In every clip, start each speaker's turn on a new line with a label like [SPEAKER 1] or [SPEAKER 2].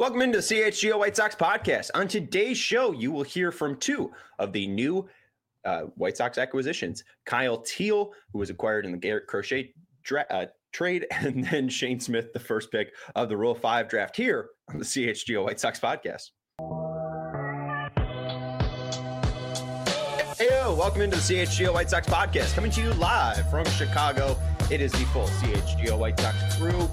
[SPEAKER 1] Welcome into the CHGO White Sox podcast. On today's show, you will hear from two of the new White Sox acquisitions. Kyle Teel, who was acquired in the Garrett Crochet trade, and then Shane Smith, the first pick of the Rule 5 draft here on the CHGO White Sox podcast. Heyo, welcome into the CHGO White Sox podcast, coming to you live from Chicago. It is the full CHGO White Sox crew.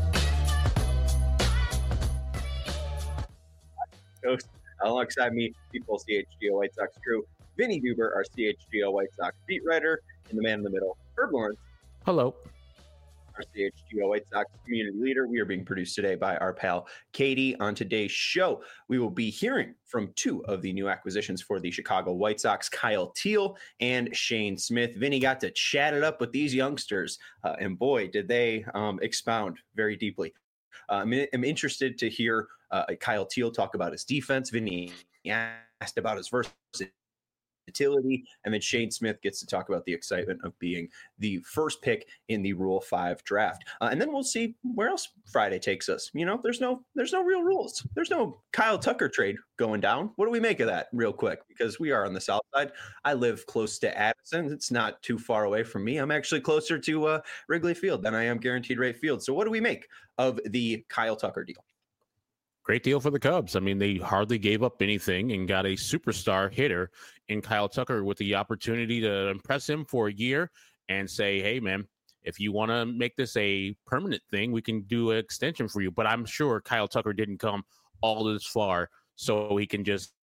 [SPEAKER 1] Alongside me, the full CHGO White Sox crew, Vinny Duber, our CHGO White Sox beat writer, and the man in the middle, Herb Lawrence.
[SPEAKER 2] Hello.
[SPEAKER 1] Our CHGO White Sox community leader. We are being produced today by our pal Katie. On today's show, we will be hearing from two of the new acquisitions for the Chicago White Sox, Kyle Teel and Shane Smith. Vinny got to chat it up with these youngsters, and boy, did they expound very deeply. I'm interested to hear Kyle Teel talk about his defense. Vinny asked about his versatility, and then Shane Smith gets to talk about the excitement of being the first pick in the Rule 5 draft. And then we'll see where else Friday takes us. You know, there's no real rules. There's no Kyle Tucker trade going down. What do we make of that real quick? Because we are on the south side. I live close to Addison. It's not too far away from me. I'm actually closer to Wrigley Field than I am Guaranteed Rate Field. So what do we make of the Kyle Tucker deal?
[SPEAKER 2] Great deal for the Cubs. I mean, they hardly gave up anything and got a superstar hitter in Kyle Tucker with the opportunity to impress him for a year and say, hey, man, if you want to make this a permanent thing, we can do an extension for you. But I'm sure Kyle Tucker didn't come all this far so he can just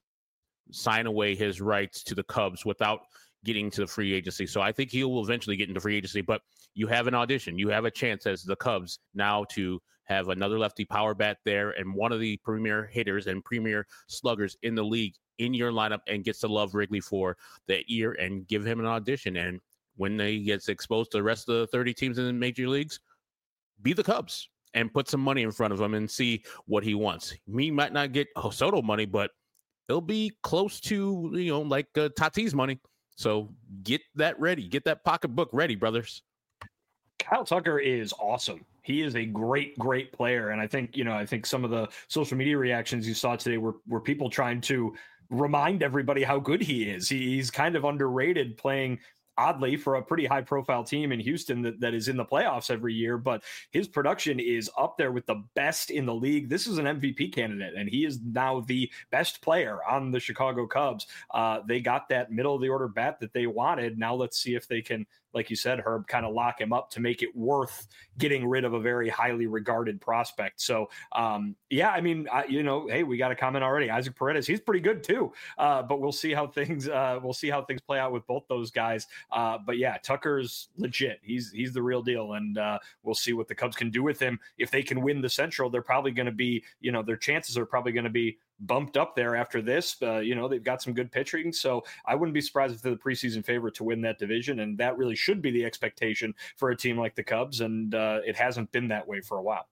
[SPEAKER 2] sign away his rights to the Cubs without getting to the free agency. So I think he will eventually get into free agency, but you have an audition. You have a chance as the Cubs now to have another lefty power bat there and one of the premier hitters and premier sluggers in the league in your lineup and gets to love Wrigley for that year and give him an audition. And when he gets exposed to the rest of the 30 teams in the major leagues, be the Cubs and put some money in front of him and see what he wants. He might not get Soto money, but it'll be close to, like Tatis money. So get that ready. Get that pocketbook ready, brothers.
[SPEAKER 3] Kyle Tucker is awesome. He is a great player. And I think some of the social media reactions you saw today were people trying to remind everybody how good he is. He's kind of underrated, playing oddly for a pretty high profile team in Houston that is in the playoffs every year, but his production is up there with the best in the league. This is an MVP candidate, and he is now the best player on the Chicago Cubs. They got that middle of the order bat that they wanted. Now let's see if they can, like you said, Herb, kind of lock him up to make it worth getting rid of a very highly regarded prospect. So, hey, we got a comment already. Isaac Paredes, he's pretty good too. But we'll see how things play out with both those guys. But yeah, Tucker's legit. He's the real deal, and we'll see what the Cubs can do with him. If they can win the Central, they're probably going to be, their chances are probably going to be bumped up there after this. They've got some good pitching, so I wouldn't be surprised if they're the preseason favorite to win that division, and that really should be the expectation for a team like the Cubs, and it hasn't been that way for a while.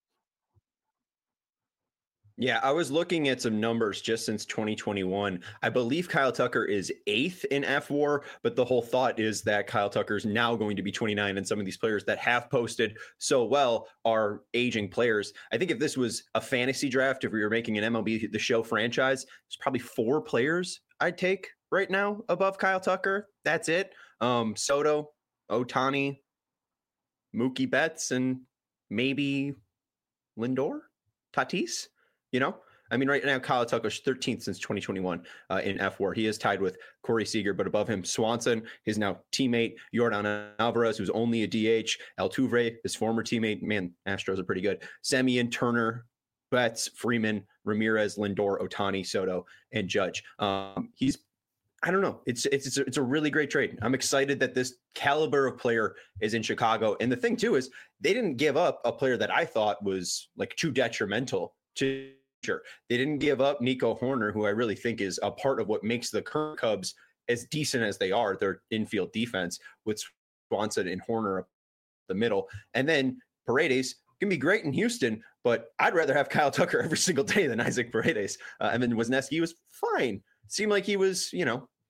[SPEAKER 1] Yeah, I was looking at some numbers just since 2021. I believe Kyle Tucker is 8th in FWAR, but the whole thought is that Kyle Tucker is now going to be 29, and some of these players that have posted so well are aging players. I think if this was a fantasy draft, if we were making an MLB The Show franchise, there's probably 4 players I'd take right now above Kyle Tucker. That's it. Soto, Ohtani, Mookie Betts, and maybe Lindor, Tatis. Right now, Kyle Tucker's 13th since 2021 in FWAR. He is tied with Corey Seager, but above him, Swanson, his now teammate, Yordan Alvarez, who's only a DH, Altuve, his former teammate. Man, Astros are pretty good. Semien, Turner, Betts, Freeman, Ramirez, Lindor, Ohtani, Soto, and Judge. I don't know. It's a really great trade. I'm excited that this caliber of player is in Chicago. And the thing, too, is they didn't give up a player that I thought was like too detrimental to. They didn't give up Nico Horner, who I really think is a part of what makes the current Cubs as decent as they are, their infield defense, with Swanson and Horner up the middle. And then Paredes can be great in Houston, but I'd rather have Kyle Tucker every single day than Isaac Paredes. And then Wisniewski was fine. Seemed like he was,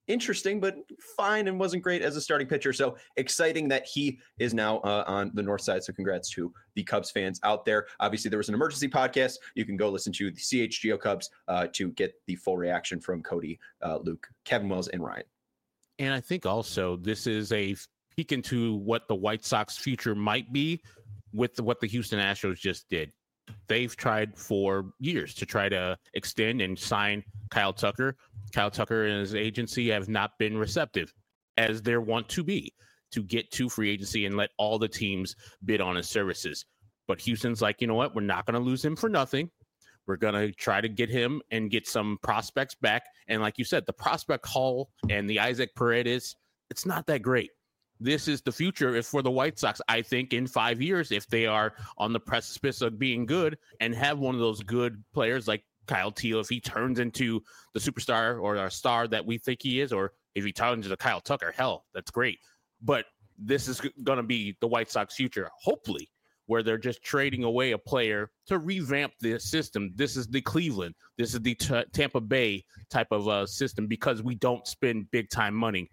[SPEAKER 1] interesting, but fine, and wasn't great as a starting pitcher. So exciting that he is now on the north side. So congrats to the Cubs fans out there. Obviously, there was an emergency podcast. You can go listen to the CHGO Cubs to get the full reaction from Cody, Luke, Kevin Wells, and Ryan.
[SPEAKER 2] And I think also this is a peek into what the White Sox future might be with what the Houston Astros just did. They've tried for years to try to extend and sign Kyle Tucker. Kyle Tucker and his agency have not been receptive, as they want to be, to get to free agency and let all the teams bid on his services. But Houston's like, you know what? We're not going to lose him for nothing. We're going to try to get him and get some prospects back. And like you said, the prospect haul and the Isaac Paredes, it's not that great. This is the future if for the White Sox. I think in 5 years, if they are on the precipice of being good and have one of those good players like Kyle Teel, if he turns into the superstar or a star that we think he is, or if he turns into Kyle Tucker, hell, that's great. But this is going to be the White Sox future, hopefully, where they're just trading away a player to revamp the system. This is the Cleveland, this is the Tampa Bay type of system, because we don't spend big time money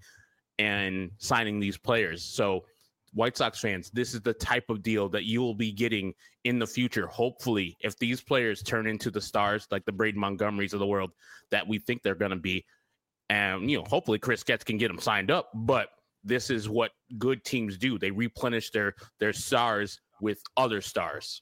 [SPEAKER 2] and signing these players. So White Sox fans, this is the type of deal that you will be getting in the future. Hopefully, if these players turn into the stars like the Braden Montgomerys of the world that we think they're going to be, and hopefully Chris Getz can get them signed up. But this is what good teams do. They replenish their stars with other stars.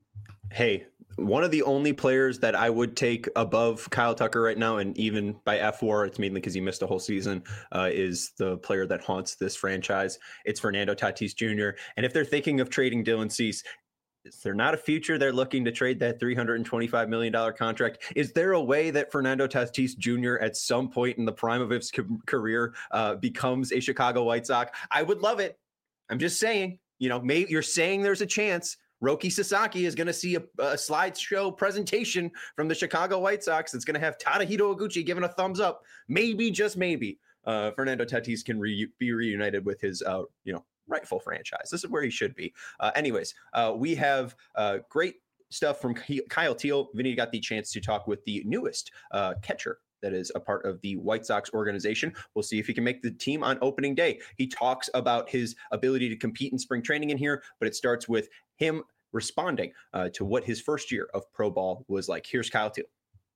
[SPEAKER 1] Hey, one of the only players that I would take above Kyle Tucker right now, and even by F4, it's mainly because he missed a whole season, is the player that haunts this franchise. It's Fernando Tatis Jr. And if they're thinking of trading Dylan Cease, is there not a future they're looking to trade that $325 million contract? Is there a way that Fernando Tatis Jr. at some point in the prime of his career becomes a Chicago White Sox? I would love it. I'm just saying, maybe you're saying there's a chance. Roki Sasaki is going to see a slideshow presentation from the Chicago White Sox that's going to have Tadahito Iguchi giving a thumbs up. Maybe, just maybe, Fernando Tatis can be reunited with his, rightful franchise. This is where he should be. Anyways, we have great stuff from Kyle Teel. Vinny got the chance to talk with the newest catcher that is a part of the White Sox organization. We'll see if he can make the team on opening day. He talks about his ability to compete in spring training in here, but it starts with him responding to what his first year of pro ball was like. Here's Kyle Teel.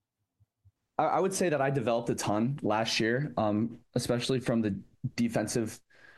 [SPEAKER 4] I would say that I developed a ton last year, especially from the defensive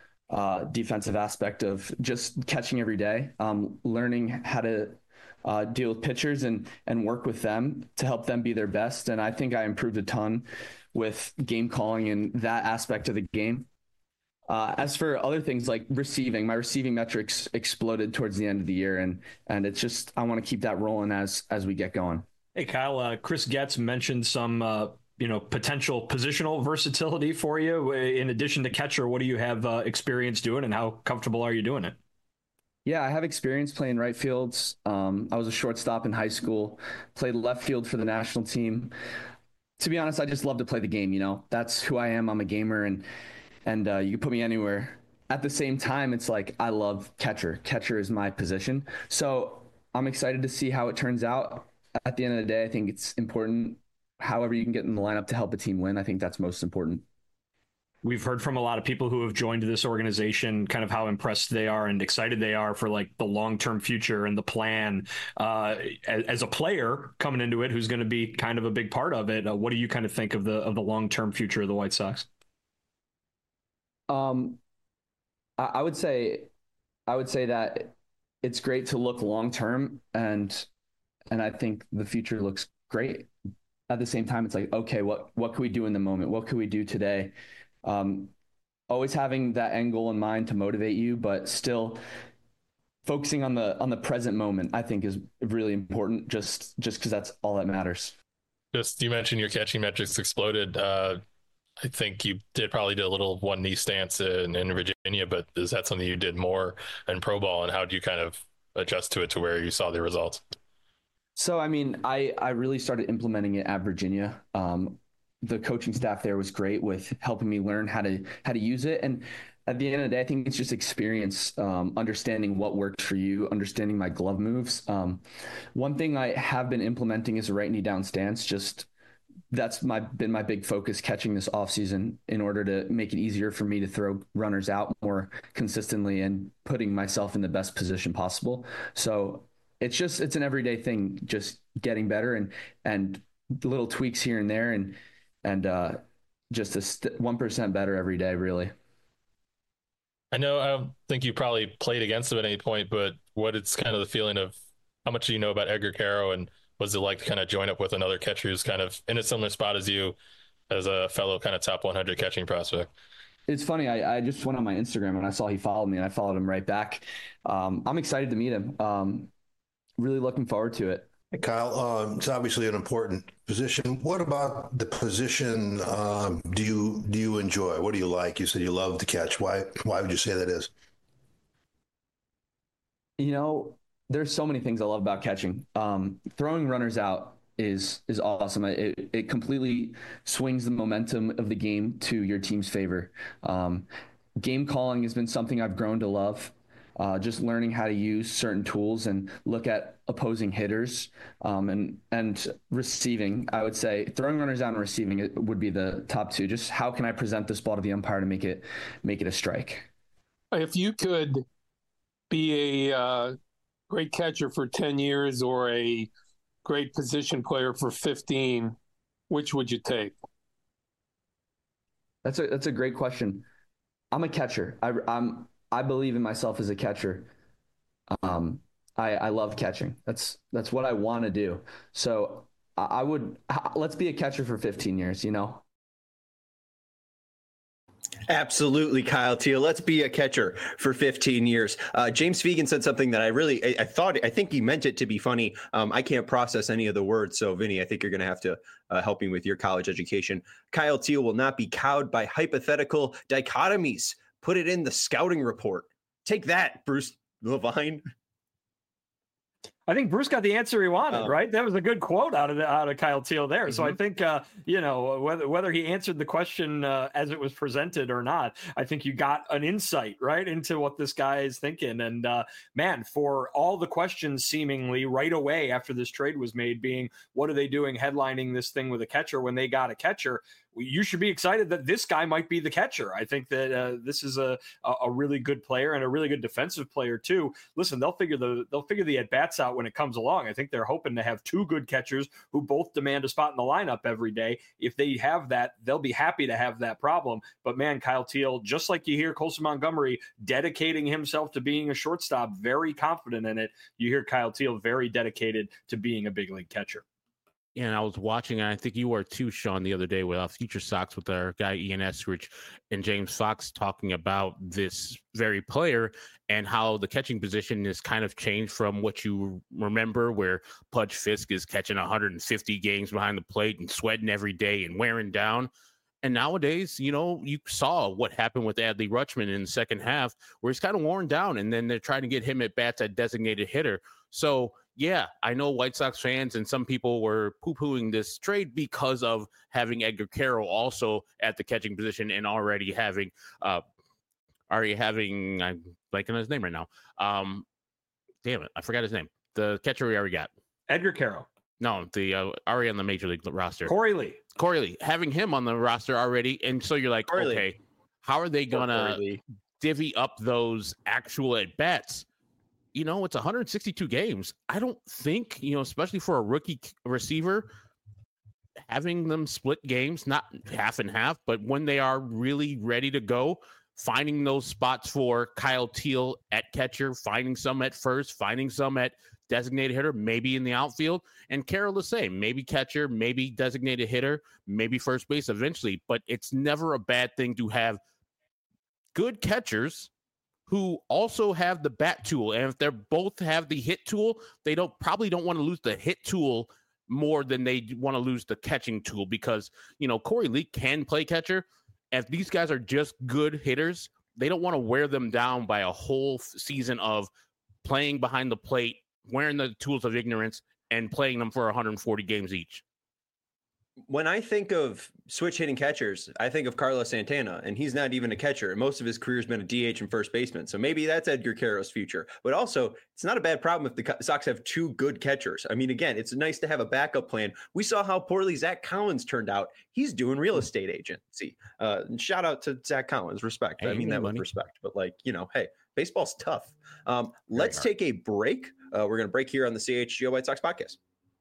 [SPEAKER 4] aspect of just catching every day, learning how to deal with pitchers and work with them to help them be their best. And I think I improved a ton with game calling and that aspect of the game. As for other things like receiving, my receiving metrics exploded towards the end of the year. And it's just, I want to keep that rolling as we get going.
[SPEAKER 3] Hey, Kyle, Chris Getz mentioned some, potential positional versatility for you. In addition to catcher, what do you have experience doing and how comfortable are you doing it?
[SPEAKER 4] Yeah, I have experience playing right fields. I was a shortstop in high school, played left field for the national team. To be honest, I just love to play the game. That's who I am. I'm a gamer and you can put me anywhere. At the same time, it's like, I love catcher. Catcher is my position. So I'm excited to see how it turns out. At the end of the day, I think it's important, however you can get in the lineup to help a team win. I think that's most important.
[SPEAKER 3] We've heard from a lot of people who have joined this organization, kind of how impressed they are and excited they are for like the long-term future and the plan. As a player coming into it, who's going to be kind of a big part of it, what do you kind of think of the long-term future of the White Sox?
[SPEAKER 4] I would say that it's great to look long-term, and I think the future looks great. At the same time, it's like, okay, what can we do in the moment? What can we do today? Always having that end goal in mind to motivate you, but still focusing on the present moment, I think is really important, just because that's all that matters.
[SPEAKER 5] You mentioned your catching metrics exploded. I think you probably did a little one knee stance in Virginia, but is that something you did more in pro ball, and how do you kind of adjust to it to where you saw the results?
[SPEAKER 4] So, I mean, I really started implementing it at Virginia. The coaching staff there was great with helping me learn how to use it. And at the end of the day, I think it's just experience, understanding what works for you, understanding my glove moves. One thing I have been implementing is a right knee down stance, just that's been my big focus catching this offseason in order to make it easier for me to throw runners out more consistently and putting myself in the best position possible. So it's an everyday thing, just getting better and little tweaks here and there and just 1% better every day, really.
[SPEAKER 5] I know I don't think you probably played against him at any point, but what it's kind of the feeling of how much do you know about Edgar Quero, and what's it like to kind of join up with another catcher who's kind of in a similar spot as you, as a fellow kind of top 100 catching prospect?
[SPEAKER 4] It's funny. I just went on my Instagram and I saw he followed me and I followed him right back. I'm excited to meet him. Really looking forward to it.
[SPEAKER 6] Hey, Kyle, it's obviously an important position. What about the position do you enjoy? What do you like? You said you love to catch. Why would you say that is?
[SPEAKER 4] You know, there's so many things I love about catching. Throwing runners out is awesome. It completely swings the momentum of the game to your team's favor. Game calling has been something I've grown to love. Just learning how to use certain tools and look at opposing hitters, and receiving. I would say throwing runners out and receiving it would be the top two. Just how can I present this ball to the umpire to make it a strike?
[SPEAKER 7] If you could be a great catcher for 10 years or a great position player for 15, which would you take?
[SPEAKER 4] That's a great question. I'm a catcher. I believe in myself as a catcher. I love catching. That's what I want to do. So let's be a catcher for 15 years, you know?
[SPEAKER 1] Absolutely, Kyle Teel. Let's be a catcher for 15 years. James Fegan said something that I think he meant it to be funny. I can't process any of the words. So Vinny, I think you're going to have to help me with your college education. Kyle Teel will not be cowed by hypothetical dichotomies. Put it in the scouting report. Take that, Bruce Levine.
[SPEAKER 3] I think Bruce got the answer he wanted, right? That was a good quote out of Kyle Teel there. Mm-hmm. So I think, whether he answered the question as it was presented or not, I think you got an insight, right, into what this guy is thinking. And man, for all the questions seemingly right away after this trade was made being, what are they doing headlining this thing with a catcher when they got a catcher? You should be excited that this guy might be the catcher. I think that this is a really good player and a really good defensive player too. Listen, they'll figure the at bats out when it comes along. I think they're hoping to have two good catchers who both demand a spot in the lineup every day. If they have that, they'll be happy to have that problem. But man, Kyle Teel, just like you hear Colson Montgomery dedicating himself to being a shortstop, very confident in it, you hear Kyle Teel very dedicated to being a big league catcher.
[SPEAKER 2] And I was watching, and I think you were too, Sean, the other day with Future Sox with our guy Ian Eskridge and James Fox talking about this very player and how the catching position has kind of changed from what you remember, where Pudge Fisk is catching 150 games behind the plate and sweating every day and wearing down. And nowadays, you saw what happened with Adley Rutschman in the second half, where he's kind of worn down, and then they're trying to get him at bats at designated hitter. So, yeah, I know White Sox fans and some people were poo-pooing this trade because of having Edgar Quero also at the catching position and already having I'm blanking on his name right now. Damn it, I forgot his name. The catcher we already got.
[SPEAKER 3] Edgar Quero.
[SPEAKER 2] No, the already on the major league roster.
[SPEAKER 3] Corey Lee, having him on the roster already, and so you're like, okay, how are they gonna divvy up those actual at bats? It's 162 games. I don't think, especially for a rookie receiver, having them split games, not half and half, but when they are really ready to go, finding those spots for Kyle Teel at catcher, finding some at first, finding some at designated hitter, maybe in the outfield, and Quero the same, maybe catcher, maybe designated hitter, maybe first base eventually, but it's never a bad thing to have good catchers who also have the bat tool. And if they both have the hit tool, they probably don't want to lose the hit tool more than they want to lose the catching tool, because, Corey Lee can play catcher. If these guys are just good hitters, they don't want to wear them down by a whole season of playing behind the plate, wearing the tools of ignorance, and playing them for 140 games each.
[SPEAKER 1] When I think of switch hitting catchers, I think of Carlos Santana, and he's not even a catcher. Most of his career has been a DH and first baseman. So maybe that's Edgar Caro's future. But also, it's not a bad problem if the Sox have two good catchers. I mean, again, it's nice to have a backup plan. We saw how poorly Zach Collins turned out. He's doing real estate agency. Shout out to Zach Collins. Respect.
[SPEAKER 2] Hey,
[SPEAKER 1] I mean that with respect. But hey, baseball's tough. Let's take a break. We're going to break here on the CHGO White Sox podcast.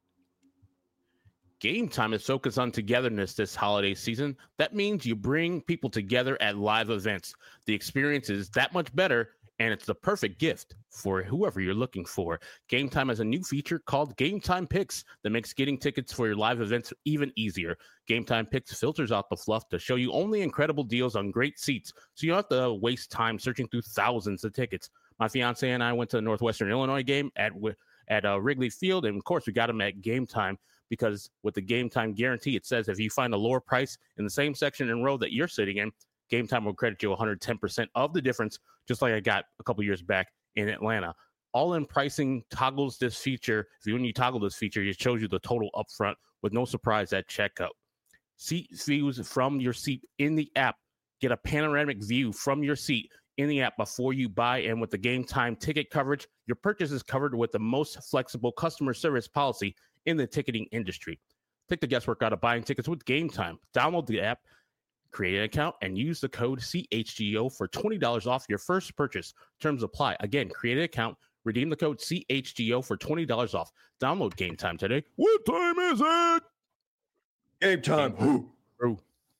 [SPEAKER 2] Game Time is focused on togetherness this holiday season. That means you bring people together at live events. The experience is that much better, and it's the perfect gift for whoever you're looking for. Game Time has a new feature called Game Time Picks that makes getting tickets for your live events even easier. Game Time Picks filters out the fluff to show you only incredible deals on great seats, so you don't have to waste time searching through thousands of tickets. My fiance and I went to the Northwestern Illinois game at Wrigley Field, and of course, we got them at Game Time. Because with the Game Time guarantee, it says if you find a lower price in the same section and row that you're sitting in, Game Time will credit you 110% of the difference, just like I got a couple years back in Atlanta. All-in pricing toggles this feature. When you toggle this feature, it shows you the total upfront with no surprise at checkout. Seat views from your seat in the app. Get a panoramic view from your seat in the app before you buy. And with the Game Time ticket coverage, your purchase is covered with the most flexible customer service policy in the ticketing industry. Take the guesswork out of buying tickets with Game Time. Download the app, create an account, and use the code CHGO for $20 off your first purchase. Terms apply. Again, create an account, redeem the code CHGO for $20 off. Download Game Time today. What time is it?
[SPEAKER 1] Game time.
[SPEAKER 2] Oh.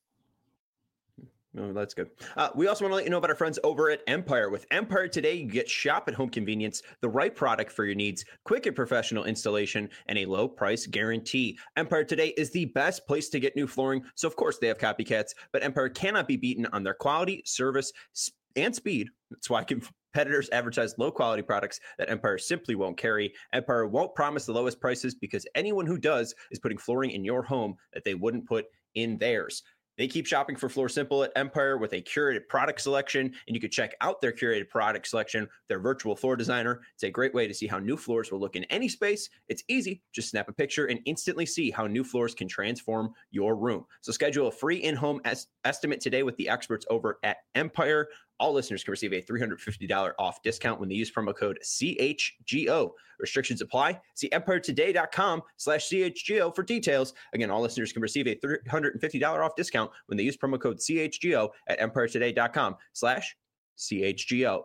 [SPEAKER 1] Oh, that's good. We also want to let you know about our friends over at Empire. With Empire Today, you get shop at home convenience, the right product for your needs, quick and professional installation, and a low price guarantee. Empire Today is the best place to get new flooring. So, of course, they have copycats, but Empire cannot be beaten on their quality, service, and speed. That's why competitors advertise low quality products that Empire simply won't carry. Empire won't promise the lowest prices because anyone who does is putting flooring in your home that they wouldn't put in theirs. They keep shopping for Floor Simple at Empire with a curated product selection, and you can check out their curated product selection, their virtual floor designer. It's a great way to see how new floors will look in any space. It's easy. Just snap a picture and instantly see how new floors can transform your room. So schedule a free in-home estimate today with the experts over at Empire. All listeners can receive a $350 off discount when they use promo code CHGO. Restrictions apply. See empiretoday.com/CHGO for details. Again, all listeners can receive a $350 off discount when they use promo code CHGO at empiretoday.com/CHGO.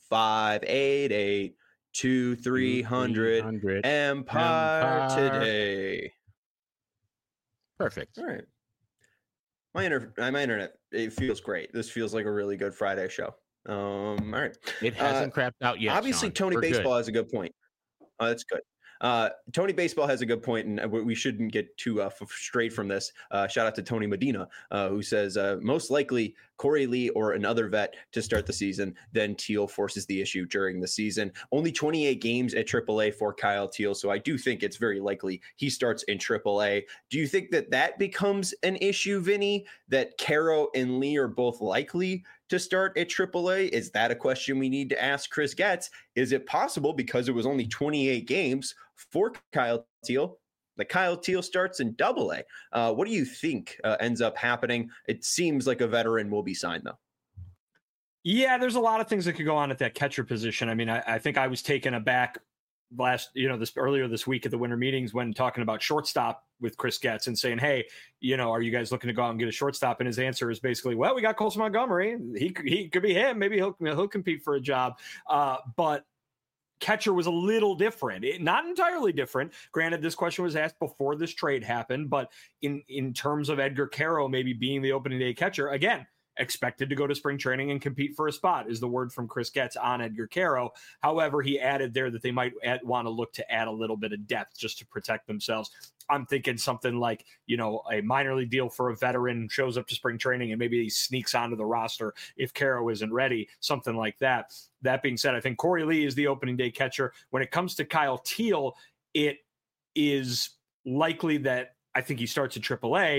[SPEAKER 1] 588-2300 Empire Today.
[SPEAKER 2] Perfect.
[SPEAKER 1] All right. My internet, it feels great. This feels like a really good Friday show. All right.
[SPEAKER 2] It hasn't crapped out yet.
[SPEAKER 1] Obviously,
[SPEAKER 2] Sean.
[SPEAKER 1] Tony
[SPEAKER 2] We're
[SPEAKER 1] Baseball
[SPEAKER 2] good.
[SPEAKER 1] has a good point. Oh, that's good. Tony Baseball has a good point, and we shouldn't get too straight from this. Shout out to Tony Medina, who says most likely Corey Lee or another vet to start the season. Then Teal forces the issue during the season. Only 28 games at AAA for Kyle Teal, so I do think it's very likely he starts in AAA. Do you think that becomes an issue, Vinny, that Caro and Lee are both likely to start at AAA? Is that a question we need to ask Chris Getz? Is it possible, because it was only 28 games for Kyle Teal, that Kyle Teal starts in AA? What do you think ends up happening? It seems like a veteran will be signed, though.
[SPEAKER 3] Yeah, there's a lot of things that could go on at that catcher position. I mean, I think I was taken aback earlier this week at the winter meetings when talking about shortstop with Chris Getz and saying, hey, are you guys looking to go out and get a shortstop? And his answer is basically, well, we got Colson Montgomery. He could be him. Maybe he'll compete for a job. But catcher was a little different, not entirely different. Granted, this question was asked before this trade happened, but in terms of Edgar Caro maybe being the opening day catcher, again, expected to go to spring training and compete for a spot is the word from Chris Getz on Edgar Caro. However, he added there that they might want to look to add a little bit of depth just to protect themselves. I'm thinking something like, a minor league deal for a veteran, shows up to spring training and maybe he sneaks onto the roster if Caro isn't ready, something like that. That being said, I think Corey Lee is the opening day catcher. When it comes to Kyle Teal, it is likely that I think he starts at AAA.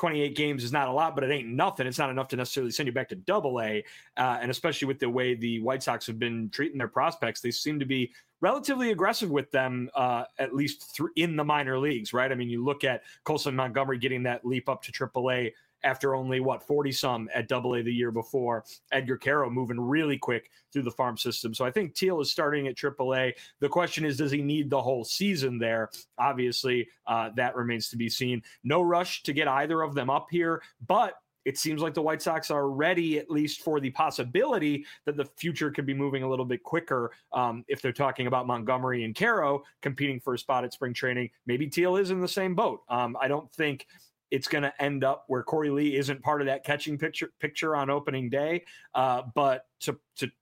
[SPEAKER 3] 28 games is not a lot, but it ain't nothing. It's not enough to necessarily send you back to Double-A. And especially with the way the White Sox have been treating their prospects, they seem to be relatively aggressive with them, at least in the minor leagues, right? I mean, you look at Colson Montgomery getting that leap up to Triple-A after only 40 some at Double-A the year before. Edgar Caro moving really quick through the farm system. So I think Teal is starting at Triple-A. The question is, does he need the whole season there? Obviously, that remains to be seen. No rush to get either of them up here, but it seems like the White Sox are ready, at least for the possibility that the future could be moving a little bit quicker. If they're talking about Montgomery and Caro competing for a spot at spring training, maybe Teal is in the same boat. I don't think it's going to end up where Corey Lee isn't part of that catching picture on opening day. But to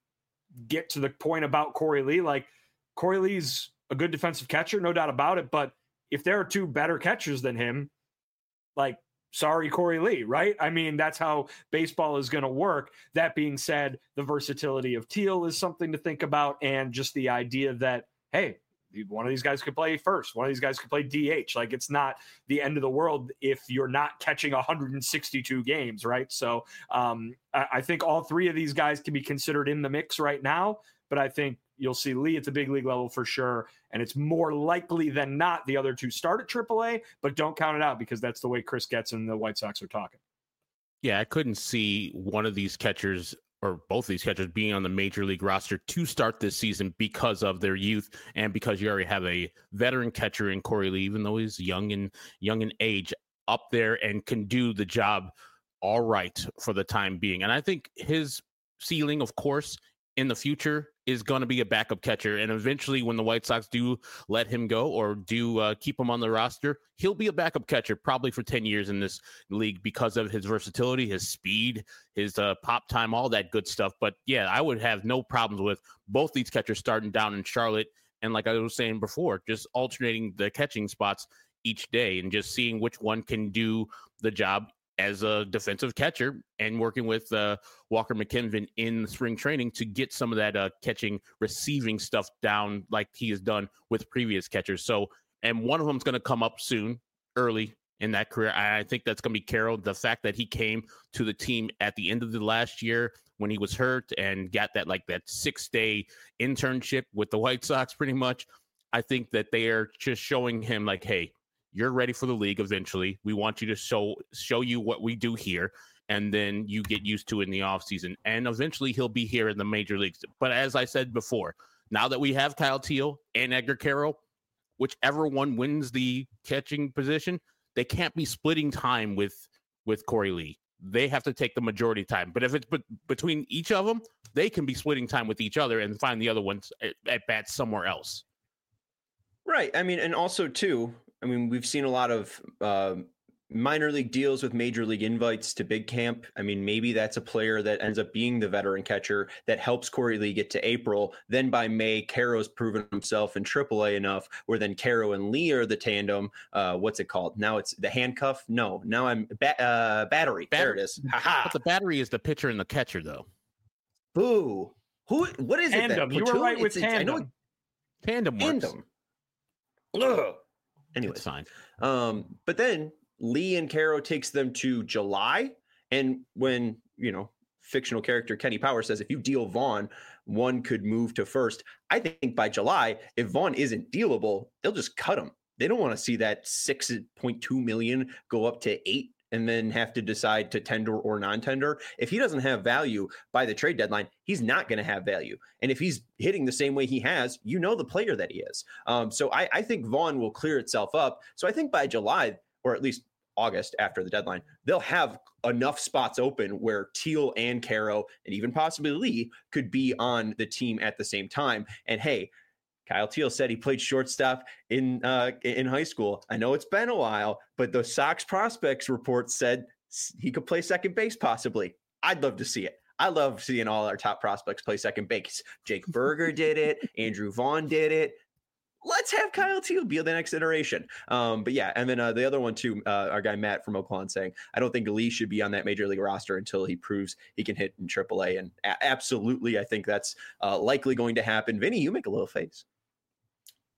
[SPEAKER 3] get to the point about Corey Lee, like, Corey Lee's a good defensive catcher, no doubt about it. But if there are two better catchers than him, like, sorry, Corey Lee, right? I mean, that's how baseball is going to work. That being said, the versatility of Teal is something to think about. And just the idea that, hey, one of these guys could play first. One of these guys could play DH. Like, it's not the end of the world if you're not catching 162 games, right? So I think all three of these guys can be considered in the mix right now, but I think you'll see Lee at the big league level for sure. And it's more likely than not the other two start at AAA, but don't count it out because that's the way Chris Getz and the White Sox are talking.
[SPEAKER 2] Yeah, I couldn't see one of these catchers or both of these catchers being on the major league roster to start this season because of their youth and because you already have a veteran catcher in Corey Lee, even though he's young in age, up there and can do the job all right for the time being. And I think his ceiling, of course, in the future is going to be a backup catcher. And eventually when the White Sox do let him go or do keep him on the roster, he'll be a backup catcher probably for 10 years in this league because of his versatility, his speed, his pop time, all that good stuff. But yeah, I would have no problems with both these catchers starting down in Charlotte. And like I was saying before, just alternating the catching spots each day and just seeing which one can do the job as a defensive catcher and working with Walker McKinven in spring training to get some of that catching, receiving stuff down like he has done with previous catchers. So, and one of them is going to come up soon, early in that career. I think that's going to be Caro. The fact that he came to the team at the end of the last year when he was hurt and got that 6-day internship with the White Sox pretty much, I think that they are just showing him like, hey, you're ready for the league eventually. We want you to show you what we do here, and then you get used to it in the offseason. And eventually he'll be here in the major leagues. But as I said before, now that we have Kyle Teal and Edgar Caro, whichever one wins the catching position, they can't be splitting time with Corey Lee. They have to take the majority time. But if it's between each of them, they can be splitting time with each other and find the other ones at bats somewhere else.
[SPEAKER 1] Right. I mean, and also too, we've seen a lot of minor league deals with major league invites to big camp. I mean, maybe that's a player that ends up being the veteran catcher that helps Corey Lee get to April. Then by May, Caro's proven himself in AAA enough where then Caro and Lee are the tandem. What's it called? Now it's the handcuff? No, now I'm battery. There it is. Ha-ha.
[SPEAKER 2] But the battery is the pitcher and the catcher, though.
[SPEAKER 1] Boo. What is
[SPEAKER 3] tandem.
[SPEAKER 1] it?
[SPEAKER 3] You were right with tandem.
[SPEAKER 1] I know
[SPEAKER 2] tandem works.
[SPEAKER 1] Tandem. Ugh. Anyway,
[SPEAKER 2] it's fine.
[SPEAKER 1] But then Lee and Caro takes them to July. And when, fictional character Kenny Power says, if you deal Vaughn, one could move to first. I think by July, if Vaughn isn't dealable, they'll just cut him. They don't want to see that 6.2 million go up to 8 and then have to decide to tender or non-tender. If he doesn't have value by the trade deadline, he's not going to have value. And if he's hitting the same way he has, the player that he is. So I think Vaughn will clear itself up. So I think by July, or at least August after the deadline, they'll have enough spots open where Teal and Caro and even possibly Lee could be on the team at the same time. And hey, Kyle Teal said he played shortstop in high school. I know it's been a while, but the Sox prospects report said he could play second base possibly. I'd love to see it. I love seeing all our top prospects play second base. Jake Berger did it. Andrew Vaughn did it. Let's have Kyle Teal be the next iteration. But yeah, and then the other one too, our guy Matt from Oakland saying, I don't think Lee should be on that major league roster until he proves he can hit in AAA. And absolutely, I think that's likely going to happen. Vinny, you make a little face.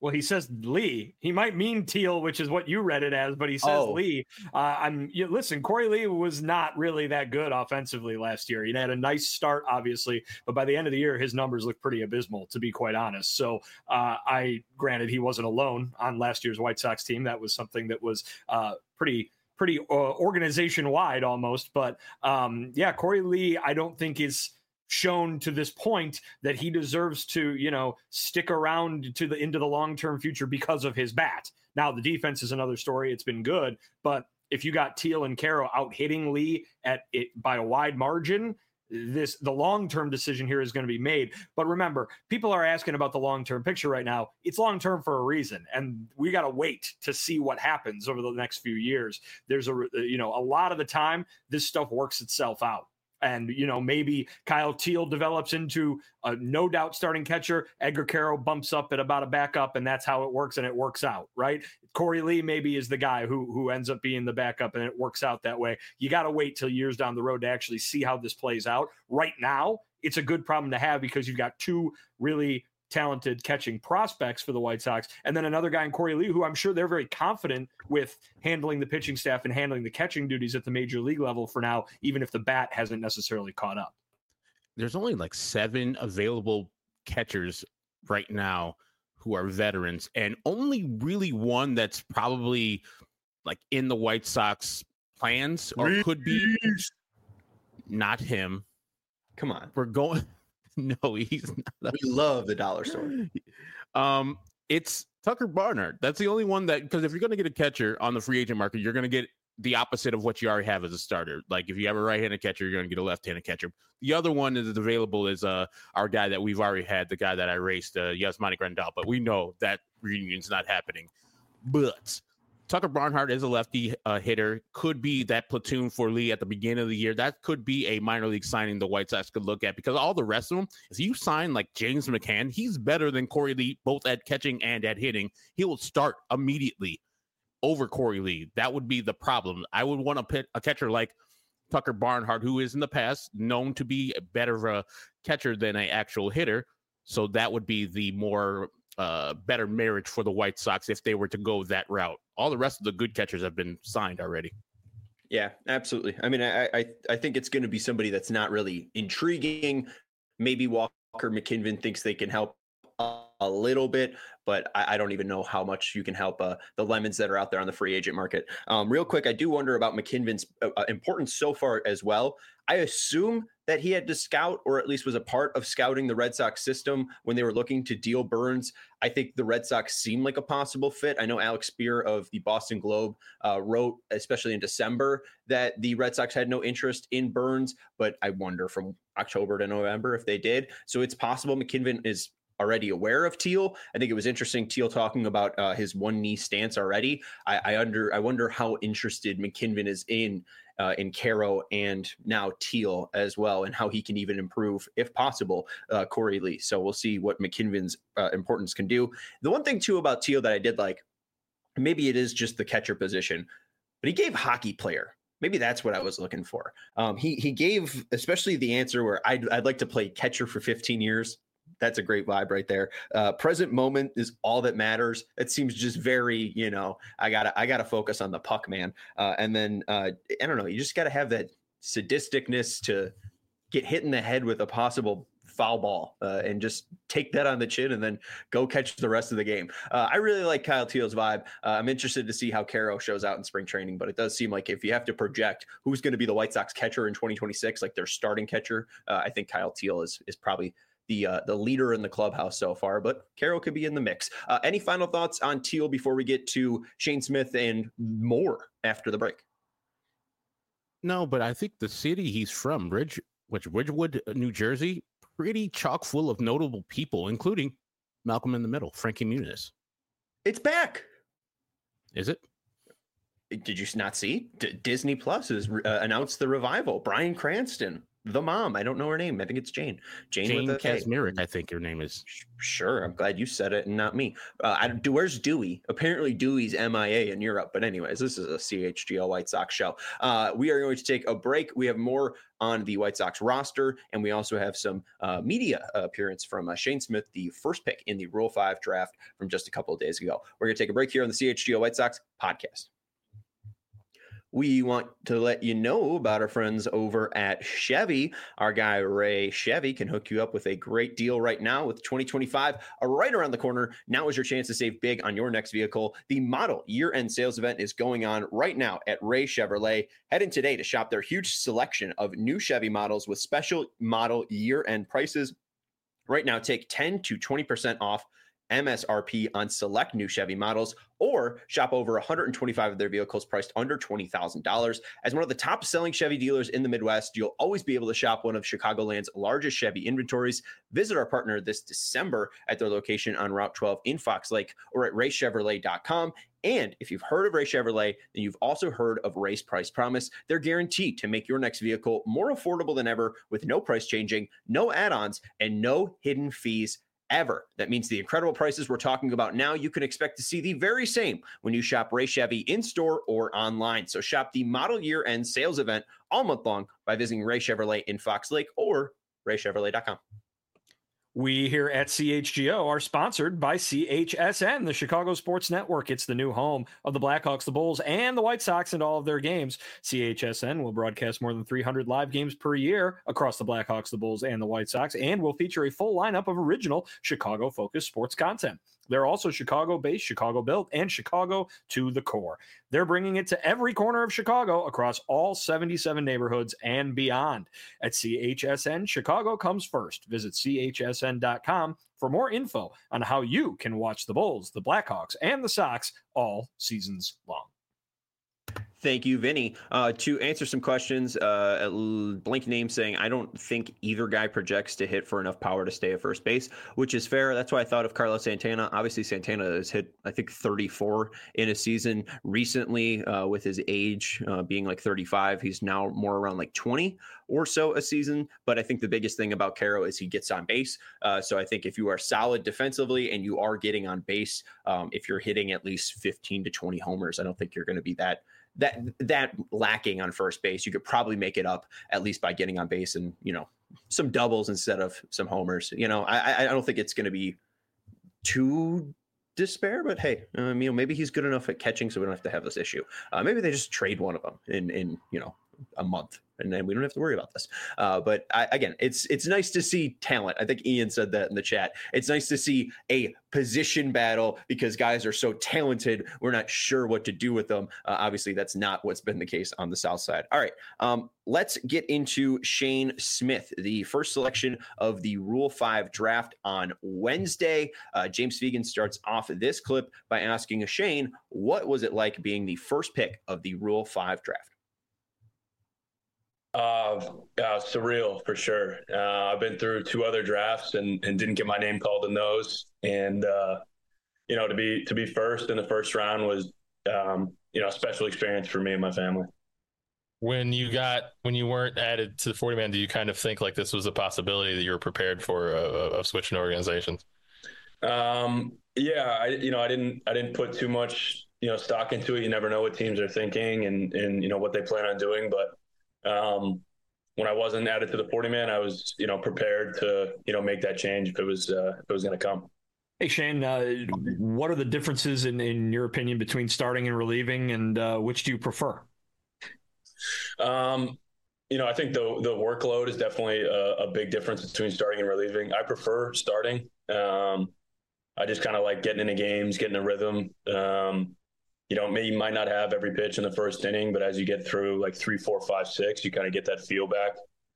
[SPEAKER 3] Well, he says Lee. He might mean Teal, which is what you read it as, but he says Lee. Listen, Corey Lee was not really that good offensively last year. He had a nice start, obviously, but by the end of the year, his numbers look pretty abysmal, to be quite honest. So granted, he wasn't alone on last year's White Sox team. That was something that was pretty organization wide almost. But Corey Lee, I don't think is shown to this point that he deserves to, stick around into the long-term future because of his bat. Now the defense is another story. It's been good, but if you got Teal and Caro out hitting Lee at it by a wide margin, the long-term decision here is going to be made. But remember, people are asking about the long-term picture right now. It's long-term for a reason, and we got to wait to see what happens over the next few years. There's a lot of the time this stuff works itself out. And, maybe Kyle Teal develops into a no doubt starting catcher. Edgar Caro bumps up at about a backup, and that's how it works, and it works out, right? Corey Lee maybe is the guy who ends up being the backup, and it works out that way. You got to wait till years down the road to actually see how this plays out. Right now, it's a good problem to have because you've got two really talented catching prospects for the White Sox, and then another guy in Corey Lee, who I'm sure they're very confident with handling the pitching staff and handling the catching duties at the major league level for now, even if the bat hasn't necessarily caught up.
[SPEAKER 2] There's only like 7 available catchers right now who are veterans, and only really one that's probably like in the White Sox plans or could be. Not him.
[SPEAKER 1] Come on.
[SPEAKER 2] We're going. No, he's not.
[SPEAKER 1] We love the dollar store.
[SPEAKER 2] It's Tucker Barnhart. That's the only one that, because if you're going to get a catcher on the free agent market, you're going to get the opposite of what you already have as a starter. Like if you have a right-handed catcher, you're going to get a left-handed catcher. The other one that is available is our guy that we've already had, the guy that I raced, Yasmani Grandal. But we know that reunion's not happening. But Tucker Barnhart is a lefty hitter, could be that platoon for Lee at the beginning of the year. That could be a minor league signing the White Sox could look at, because all the rest of them, if you sign like James McCann, he's better than Corey Lee, both at catching and at hitting. He will start immediately over Corey Lee. That would be the problem. I would want to pick a catcher like Tucker Barnhart, who is in the past known to be better of a catcher than an actual hitter. So that would be the more better marriage for the White Sox if they were to go that route. All the rest of the good catchers have been signed already.
[SPEAKER 1] Yeah, absolutely. I mean, I think it's going to be somebody that's not really intriguing. Maybe Walker McKinven thinks they can help a little bit, but I don't even know how much you can help the lemons that are out there on the free agent market. Real quick, I do wonder about McKinven's importance so far as well. I assume that he had to scout, or at least was a part of scouting the Red Sox system when they were looking to deal Burns. I think the Red Sox seemed like a possible fit. I know Alex Spear of the Boston Globe wrote, especially in December, that the Red Sox had no interest in Burns, but I wonder from October to November if they did. So it's possible McKinven is already aware of Teal. I think it was interesting, Teal talking about his one knee stance already. I wonder how interested McKinven is in Caro and now Teal as well, and how he can even improve, if possible, Corey Lee. So we'll see what McKinven's importance can do. The one thing too about Teal that I did like, maybe it is just the catcher position, but he gave hockey player. Maybe that's what I was looking for. He gave especially the answer where I'd like to play catcher for 15 years. That's a great vibe right there. Present moment is all that matters. It seems just very, I gotta focus on the puck, man. And then I don't know, you just gotta have that sadisticness to get hit in the head with a possible foul ball and just take that on the chin and then go catch the rest of the game. I really like Kyle Teal's vibe. I'm interested to see how Caro shows out in spring training, but it does seem like if you have to project who's going to be the White Sox catcher in 2026, like their starting catcher, I think Kyle Teal is probably the leader in the clubhouse so far, but Caro could be in the mix. Any final thoughts on Teal before we get to Shane Smith and more after the break?
[SPEAKER 2] No, but I think the city he's from, Ridgewood, New Jersey, pretty chock full of notable people, including Malcolm in the Middle, Frankie Muniz.
[SPEAKER 1] It's back.
[SPEAKER 2] Is it?
[SPEAKER 1] Did you not see? Disney Plus has announced the revival. Bryan Cranston the mom. I don't know her name. I think it's Jane. Jane with a K.
[SPEAKER 2] Kasmerick, I think her name is.
[SPEAKER 1] Sure. I'm glad you said it and not me. Where's Dewey? Apparently Dewey's MIA in Europe. But anyways, this is a CHGO White Sox show. We are going to take a break. We have more on the White Sox roster, and we also have some media appearance from Shane Smith, the first pick in the Rule 5 draft from just a couple of days ago. We're going to take a break here on the CHGO White Sox podcast. We want to let you know about our friends over at Chevy. Our guy Ray Chevy can hook you up with a great deal right now with 2025 right around the corner. Now is your chance to save big on your next vehicle. The model year-end sales event is going on right now at Ray Chevrolet. Head in today to shop their huge selection of new Chevy models with special model year-end prices. Right now, take 10 to 20% off MSRP on select new Chevy models, or shop over 125 of their vehicles priced under $20,000. As one of the top selling Chevy dealers in the Midwest, you'll always be able to shop one of Chicagoland's largest Chevy inventories. Visit our partner this December at their location on Route 12 in Fox Lake or at raychevrolet.com. And if you've heard of Ray Chevrolet, then you've also heard of Ray's Price Promise. They're guaranteed to make your next vehicle more affordable than ever with no price changing, no add-ons, and no hidden fees ever. That means the incredible prices we're talking about now, you can expect to see the very same when you shop Ray Chevy in-store or online. So shop the model year end sales event all month long by visiting Ray Chevrolet in Fox Lake or raychevrolet.com.
[SPEAKER 3] We here at CHGO are sponsored by CHSN, the Chicago Sports Network. It's the new home of the Blackhawks, the Bulls, and the White Sox and all of their games. CHSN will broadcast more than 300 live games per year across the Blackhawks, the Bulls, and the White Sox, and will feature a full lineup of original Chicago-focused sports content. They're also Chicago-based, Chicago-built, and Chicago to the core. They're bringing it to every corner of Chicago across all 77 neighborhoods and beyond. At CHSN, Chicago comes first. Visit chsn.com for more info on how you can watch the Bulls, the Blackhawks, and the Sox all seasons long.
[SPEAKER 1] Thank you, Vinny. To answer some questions, blank name saying, I don't think either guy projects to hit for enough power to stay at first base, which is fair. That's why I thought of Carlos Santana. Obviously, Santana has hit, I think, 34 in a season recently with his age being like 35. He's now more around like 20 or so a season. But I think the biggest thing about Caro is he gets on base. So I think if you are solid defensively and you are getting on base, if you're hitting at least 15 to 20 homers, I don't think you're going to be that lacking on first base. You could probably make it up at least by getting on base and, some doubles instead of some homers. I don't think it's going to be too despair, but hey, maybe he's good enough at catching so we don't have to have this issue. Maybe they just trade one of them in a month, and then we don't have to worry about this. But again, it's nice to see talent. I think Ian said that in the chat. It's nice to see a position battle because guys are so talented. We're not sure what to do with them. Obviously, that's not what's been the case on the South Side. All right, let's get into Shane Smith, the first selection of the Rule 5 draft on Wednesday. James Fegan starts off this clip by asking Shane, what was it like being the first pick of the Rule 5 draft?
[SPEAKER 8] Surreal for sure. I've been through 2 other drafts and didn't get my name called in those. And, to be first in the first round was, a special experience for me and my family.
[SPEAKER 5] When you weren't added to the 40-man, do you kind of think like this was a possibility that you were prepared for of switching organizations?
[SPEAKER 8] Yeah, I didn't put too much, stock into it. You never know what teams are thinking and what they plan on doing. But when I wasn't added to the 40-man, I was, prepared to, make that change if it was going to come.
[SPEAKER 3] Hey, Shane, what are the differences in your opinion between starting and relieving, and which do you prefer?
[SPEAKER 8] I think the workload is definitely a big difference between starting and relieving. I prefer starting. I just kind of like getting into games, getting a rhythm. You might not have every pitch in the first inning, but as you get through like 3, 4, 5, 6, you kind of get that feel back.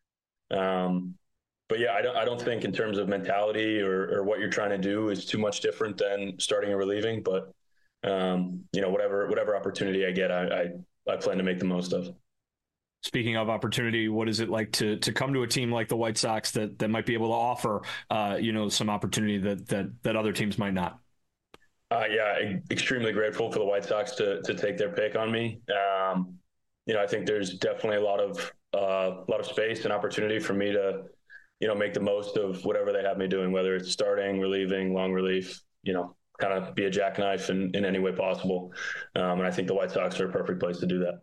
[SPEAKER 8] But yeah, I don't think in terms of mentality or what you're trying to do is too much different than starting and relieving. But whatever opportunity I get, I plan to make the most of.
[SPEAKER 3] Speaking of opportunity, what is it like to come to a team like the White Sox that might be able to offer some opportunity that other teams might not?
[SPEAKER 8] Extremely grateful for the White Sox to take their pick on me. I think there's definitely a lot of a lot of space and opportunity for me to, make the most of whatever they have me doing, whether it's starting, relieving, long relief, kind of be a jackknife in any way possible. And I think the White Sox are a perfect place to do that.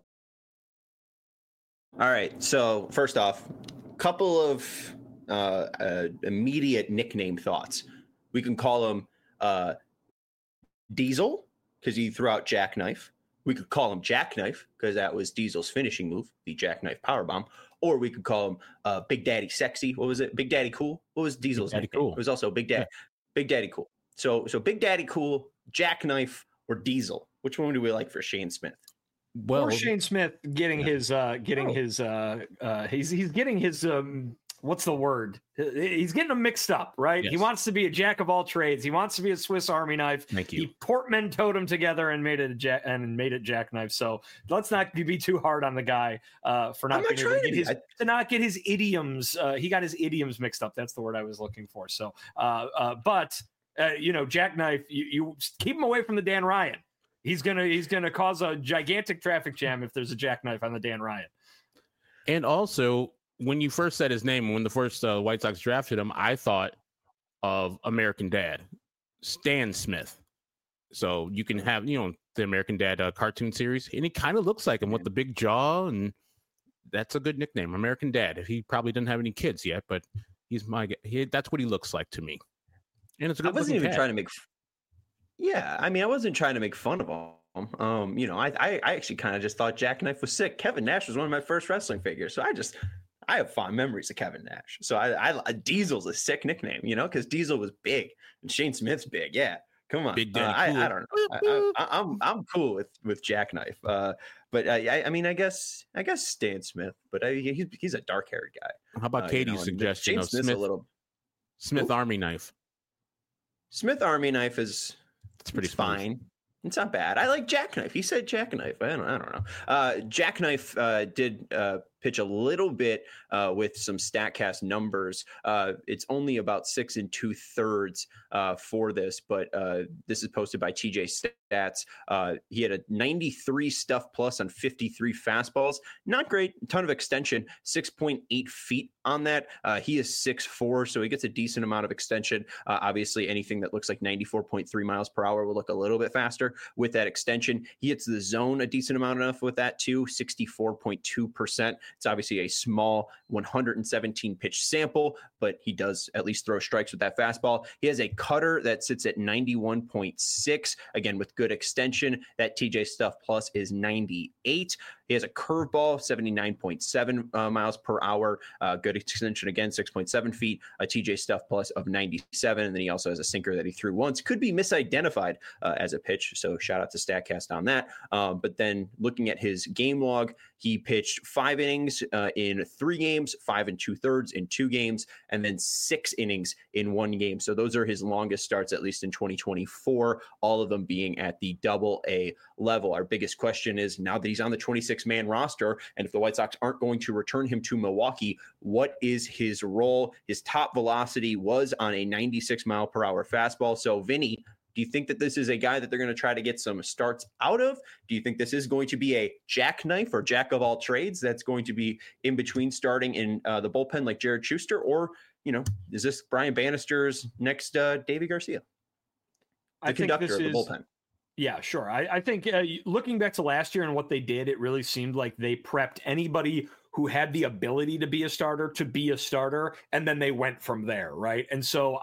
[SPEAKER 1] All right. So first off, couple of immediate nickname thoughts. We can call him Diesel because he threw out Jackknife. We could call him Jackknife because that was Diesel's finishing move, the Jackknife Powerbomb. Or we could call him Big Daddy Sexy. What was it? Big Daddy Cool? What was Diesel's nickname? Cool. It was also Big Daddy. Yeah. Big Daddy Cool. So Big Daddy Cool, Jackknife, or Diesel. Which one do we like for Shane Smith?
[SPEAKER 3] Well, or Shane Smith getting his what's the word? He's getting them mixed up, right? Yes. He wants to be a jack of all trades. He wants to be a Swiss Army knife.
[SPEAKER 2] Thank you.
[SPEAKER 3] He portmanteaued them together and made it jackknife. So let's not be too hard on the guy for not being able to not get his idioms. He got his idioms mixed up. That's the word I was looking for. So, but jackknife. You keep him away from the Dan Ryan. He's gonna cause a gigantic traffic jam if there's a jackknife on the Dan Ryan.
[SPEAKER 2] And also, when you first said his name, when the first White Sox drafted him, I thought of American Dad, Stan Smith. So you can have, the American Dad cartoon series, and he kind of looks like him with the big jaw, and that's a good nickname, American Dad. He probably doesn't have any kids yet, but he's that's what he looks like to me. And it's a good.
[SPEAKER 1] I wasn't even trying to make. Yeah, I mean, I wasn't trying to make fun of him. I actually kind of just thought Jackknife was sick. Kevin Nash was one of my first wrestling figures, so I have fond memories of Kevin Nash. So Diesel's a sick nickname, because Diesel was big and Shane Smith's big. Yeah, come on. Big I don't know. I'm cool with Jackknife. But I mean, I guess Stan Smith. But he's a dark haired guy.
[SPEAKER 2] How about Katie's suggestion of Smith Army Knife? Smith
[SPEAKER 1] Army Knife is
[SPEAKER 2] pretty
[SPEAKER 1] fine. It's not bad. I like Jackknife. He said Jackknife. I don't know. Jackknife did pitch a little bit with some StatCast numbers. It's only about 6 2/3 for this, but this is posted by TJ Stats. He had a 93 stuff plus on 53 fastballs. Not great. A ton of extension. 6.8 feet on that. He is 6'4", so he gets a decent amount of extension. Obviously, anything that looks like 94.3 miles per hour will look a little bit faster with that extension. He hits the zone a decent amount enough with that too, 64.2%. It's obviously a small 117 pitch sample, but he does at least throw strikes with that fastball. He has a cutter that sits at 91.6, again with good extension. That TJ Stuff Plus is 98. He has a curveball, 79.7 miles per hour. Good extension again, 6.7 feet. A TJ Stuff Plus of 97. And then he also has a sinker that he threw once. Could be misidentified as a pitch. So shout out to StatCast on that. But then looking at his game log, he pitched 5 innings in 3 games, 5 2/3 in 2 games, and then 6 innings in 1 game. So those are his longest starts, at least in 2024, all of them being at the Double-A level. Our biggest question is, now that he's on the 26-man roster, and if the White Sox aren't going to return him to Milwaukee, what is his role? His top velocity was on a 96 mile per hour fastball. So Vinny, do you think that this is a guy that they're going to try to get some starts out of? Do you think this is going to be a jackknife or jack of all trades that's going to be in between starting in the bullpen like Jared Schuster? Or, is this Brian Bannister's next Davey Garcia? The conductor of the bullpen.
[SPEAKER 3] Yeah, sure. I think looking back to last year and what they did, it really seemed like they prepped anybody who had the ability to be a starter to be a starter, and then they went from there, right? And so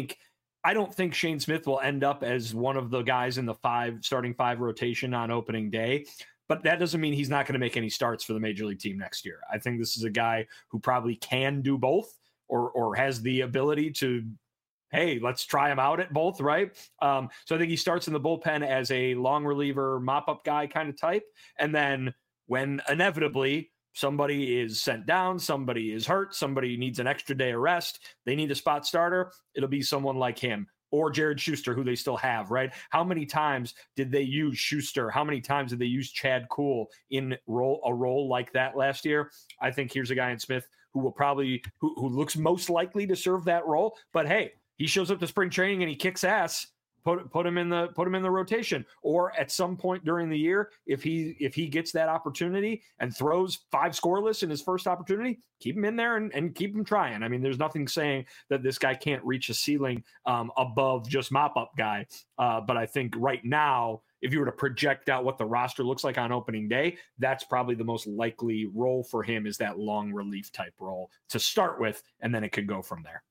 [SPEAKER 3] I don't think Shane Smith will end up as one of the guys in the starting 5 rotation on opening day, but that doesn't mean he's not going to make any starts for the major league team next year. I think this is a guy who probably can do both or has the ability to, hey, let's try him out at both, right? So I think he starts in the bullpen as a long reliever, mop-up guy kind of type, and then when inevitably somebody is sent down, somebody is hurt, somebody needs an extra day of rest, they need a spot starter, it'll be someone like him or Jared Schuster, who they still have, right? How many times did they use Schuster? How many times did they use Chad Kuhl in a role like that last year? I think here's a guy in Smith who will probably, who looks most likely to serve that role. But hey, he shows up to spring training and he kicks ass. put him in the rotation, or at some point during the year, if he gets that opportunity and throws 5 scoreless in his first opportunity, keep him in there and keep him trying. I mean, there's nothing saying that this guy can't reach a ceiling above just mop up guy. But I think right now, if you were to project out what the roster looks like on opening day, that's probably the most likely role for him, is that long relief type role to start with, and then it could go from there.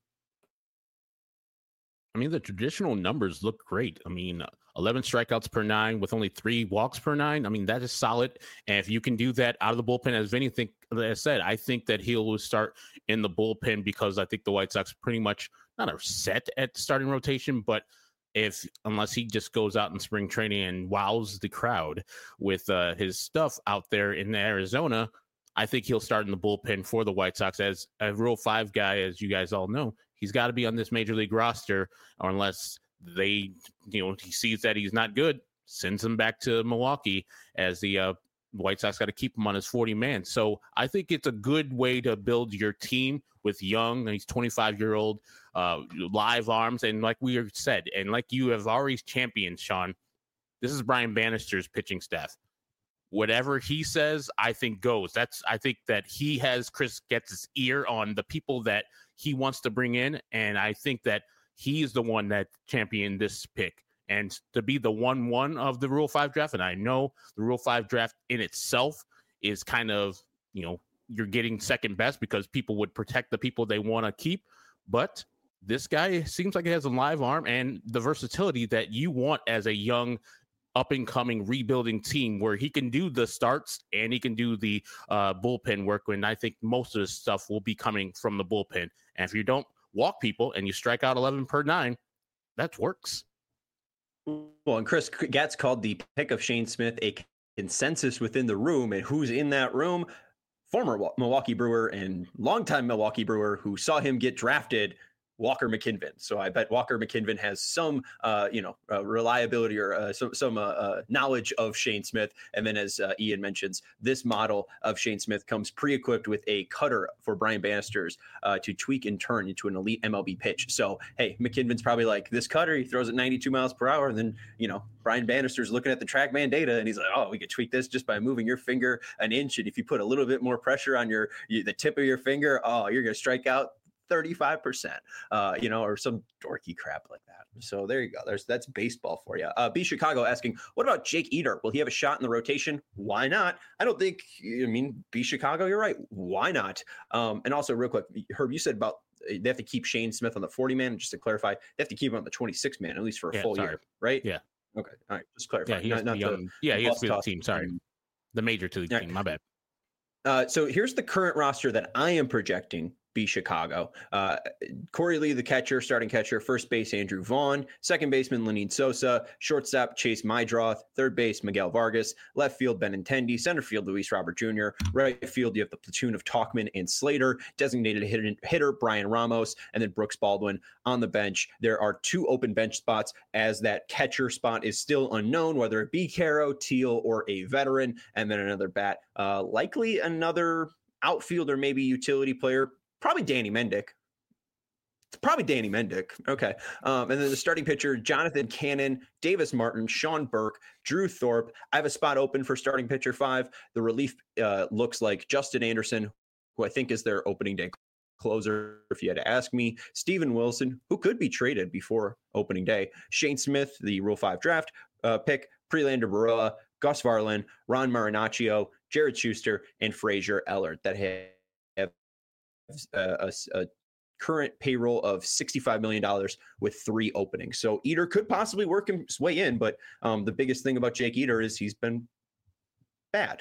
[SPEAKER 2] I mean, the traditional numbers look great. I mean, 11 strikeouts per 9 with only 3 walks per 9. I mean, that is solid. And if you can do that out of the bullpen, as Vinny said, I think that he'll start in the bullpen, because I think the White Sox pretty much not are set at starting rotation, but unless he just goes out in spring training and wows the crowd with his stuff out there in Arizona, I think he'll start in the bullpen for the White Sox as a Rule 5 guy, as you guys all know. He's got to be on this major league roster, or unless he sees that he's not good, sends him back to Milwaukee, as the White Sox got to keep him on his 40-man. So I think it's a good way to build your team with young, he's 25-year-old, live arms. And like we said, and like you have already championed, Sean, this is Brian Bannister's pitching staff. Whatever he says, I think goes. I think that Chris gets his ear on the people that he wants to bring in. And I think that he's the one that championed this pick. And to be the 1-1 of the Rule 5 draft, and I know the Rule 5 draft in itself is kind of, you're getting second best because people would protect the people they want to keep. But this guy seems like he has a live arm and the versatility that you want as a young, up-and-coming rebuilding team, where he can do the starts and he can do the bullpen work. And I think most of the stuff will be coming from the bullpen. And if you don't walk people and you strike out 11 per 9, that works.
[SPEAKER 1] Well, and Chris Gatz called the pick of Shane Smith a consensus within the room. And who's in that room? Former Milwaukee Brewer and longtime Milwaukee Brewer who saw him get drafted, Walker McKinven. So I bet Walker McKinven has some, reliability or some knowledge of Shane Smith. And then, as Ian mentions, this model of Shane Smith comes pre-equipped with a cutter for Brian Bannister's to tweak and turn into an elite MLB pitch. So, hey, McKinven's probably like, this cutter, he throws at 92 miles per hour. And then, Brian Bannister's looking at the TrackMan data and he's like, oh, we could tweak this just by moving your finger an inch. And if you put a little bit more pressure on the tip of your finger, you're going to strike out 35%, or some dorky crap like that. So there you go. That's baseball for you. B Chicago asking, what about Jake Eder? Will he have a shot in the rotation? Why not? I don't think, B Chicago, you're right. Why not? And also real quick, Herb, you said about they have to keep Shane Smith on the 40-man. Just to clarify, they have to keep him on the 26-man, at least for a full year, right?
[SPEAKER 2] Yeah.
[SPEAKER 1] Okay. All right. Just clarify.
[SPEAKER 2] Yeah, he has to be the team. Sorry. The major to the team. My bad.
[SPEAKER 1] So here's the current roster that I am projecting. B Chicago. Corey Lee, the catcher, starting catcher. First base, Andrew Vaughn. Second baseman, Lenyn Sosa. Shortstop, Chase Meidroth. Third base, Miguel Vargas. Left field, Benintendi. Center field, Luis Robert Jr. Right field, you have the platoon of Tauchman and Slater. Designated hitter, Brian Ramos. And then Brooks Baldwin on the bench. There are 2 open bench spots, as that catcher spot is still unknown, whether it be Caro, Teal, or a veteran. And then another bat. Likely another outfielder, maybe utility player. Probably Danny Mendick. Okay. And then the starting pitcher, Jonathan Cannon, Davis Martin, Sean Burke, Drew Thorpe. I have a spot open for starting pitcher 5. The relief looks like Justin Anderson, who I think is their opening day closer, if you had to ask me. Steven Wilson, who could be traded before opening day. Shane Smith, the Rule 5 draft pick. Prelander Baroa, Gus Varlin, Ron Marinaccio, Jared Schuster, and Frazier Ellert that have a current payroll of $65 million with 3 openings. So Eder could possibly work his way in, but the biggest thing about Jake Eder is he's been bad.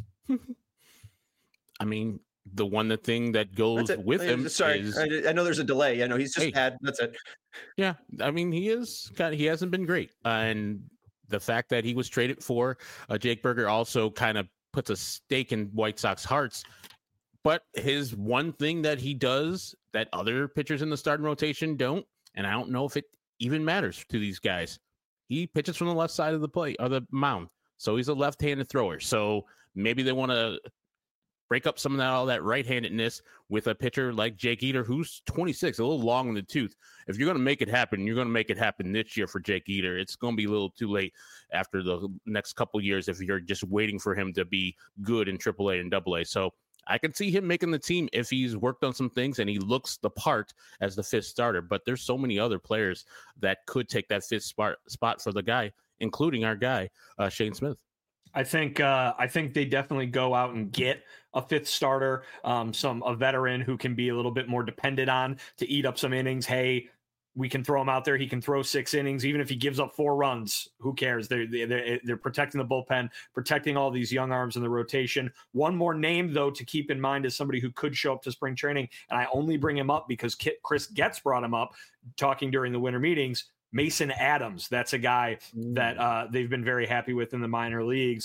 [SPEAKER 2] I mean, the thing that goes with him is...
[SPEAKER 1] I know there's a delay. I know he's just bad. That's it.
[SPEAKER 2] Yeah, I mean, he hasn't been great. And the fact that he was traded for Jake Burger also kind of puts a stake in White Sox hearts. But his one thing that he does that other pitchers in the starting rotation don't, and I don't know if it even matters to these guys, he pitches from the left side of the plate or the mound. So he's a left-handed thrower. So maybe they want to break up some of all that right-handedness with a pitcher like Jake Eder, who's 26, a little long in the tooth. If you're going to make it happen, you're going to make it happen this year for Jake Eder. It's going to be a little too late after the next couple of years if you're just waiting for him to be good in AAA and AA. So I can see him making the team if he's worked on some things and he looks the part as the fifth starter. But there's so many other players that could take that fifth spot for the guy, including our guy, Shane Smith.
[SPEAKER 3] I think they definitely go out and get a fifth starter, a veteran who can be a little bit more dependent on to eat up some innings. Hey, we can throw him out there. He can throw 6 innings, even if he gives up 4 runs. Who cares? They're protecting the bullpen, protecting all these young arms in the rotation. One more name, though, to keep in mind is somebody who could show up to spring training, and I only bring him up because Chris Getz brought him up talking during the winter meetings. Mason Adams. That's a guy that they've been very happy with in the minor leagues.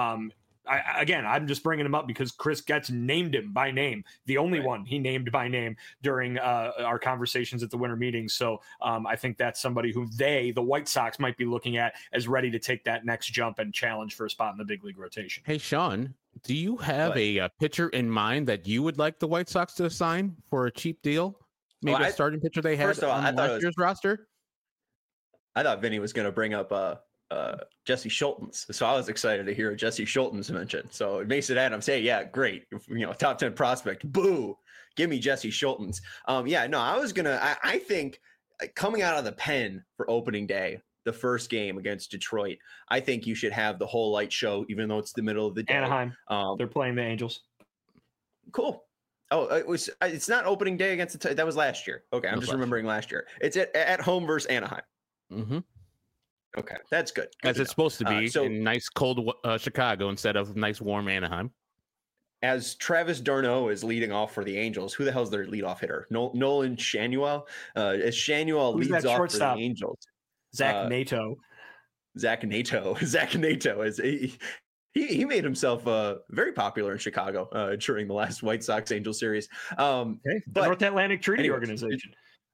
[SPEAKER 3] I'm just bringing him up because Chris Getz named him by name, the only one he named by name during our conversations at the winter meetings. So I think that's somebody who the White Sox, might be looking at as ready to take that next jump and challenge for a spot in the big league rotation.
[SPEAKER 2] Hey, Sean, do you have a pitcher in mind that you would like the White Sox to sign for a cheap deal? Maybe a starting pitcher they had on last year's roster?
[SPEAKER 1] I thought Vinny was going to bring up Jesse Schultens, so I was excited to hear Jesse Schultens mentioned. So Mason Adams, hey, yeah, great, top 10 prospect, boo, give me Jesse Schultens. I was gonna. I think coming out of the pen for opening day, the first game against Detroit, I think you should have the whole light show, even though it's the middle of the day.
[SPEAKER 3] Anaheim, they're playing the Angels.
[SPEAKER 1] Cool. Oh, it's not opening day against that was last year. Okay, I'm just remembering last year. It's at home versus Anaheim.
[SPEAKER 2] Mm-hmm.
[SPEAKER 1] Okay, that's good.
[SPEAKER 2] As it's supposed to be in nice cold Chicago instead of nice warm Anaheim.
[SPEAKER 1] As Travis d'Arnaud is leading off for the Angels, who the hell's their leadoff hitter? Nolan Schanuel. As Schanuel leads off for the Angels,
[SPEAKER 3] Zach Nato.
[SPEAKER 1] Zach Nato is he made himself very popular in Chicago during the last White Sox Angels series.
[SPEAKER 3] The North Atlantic Treaty Organization.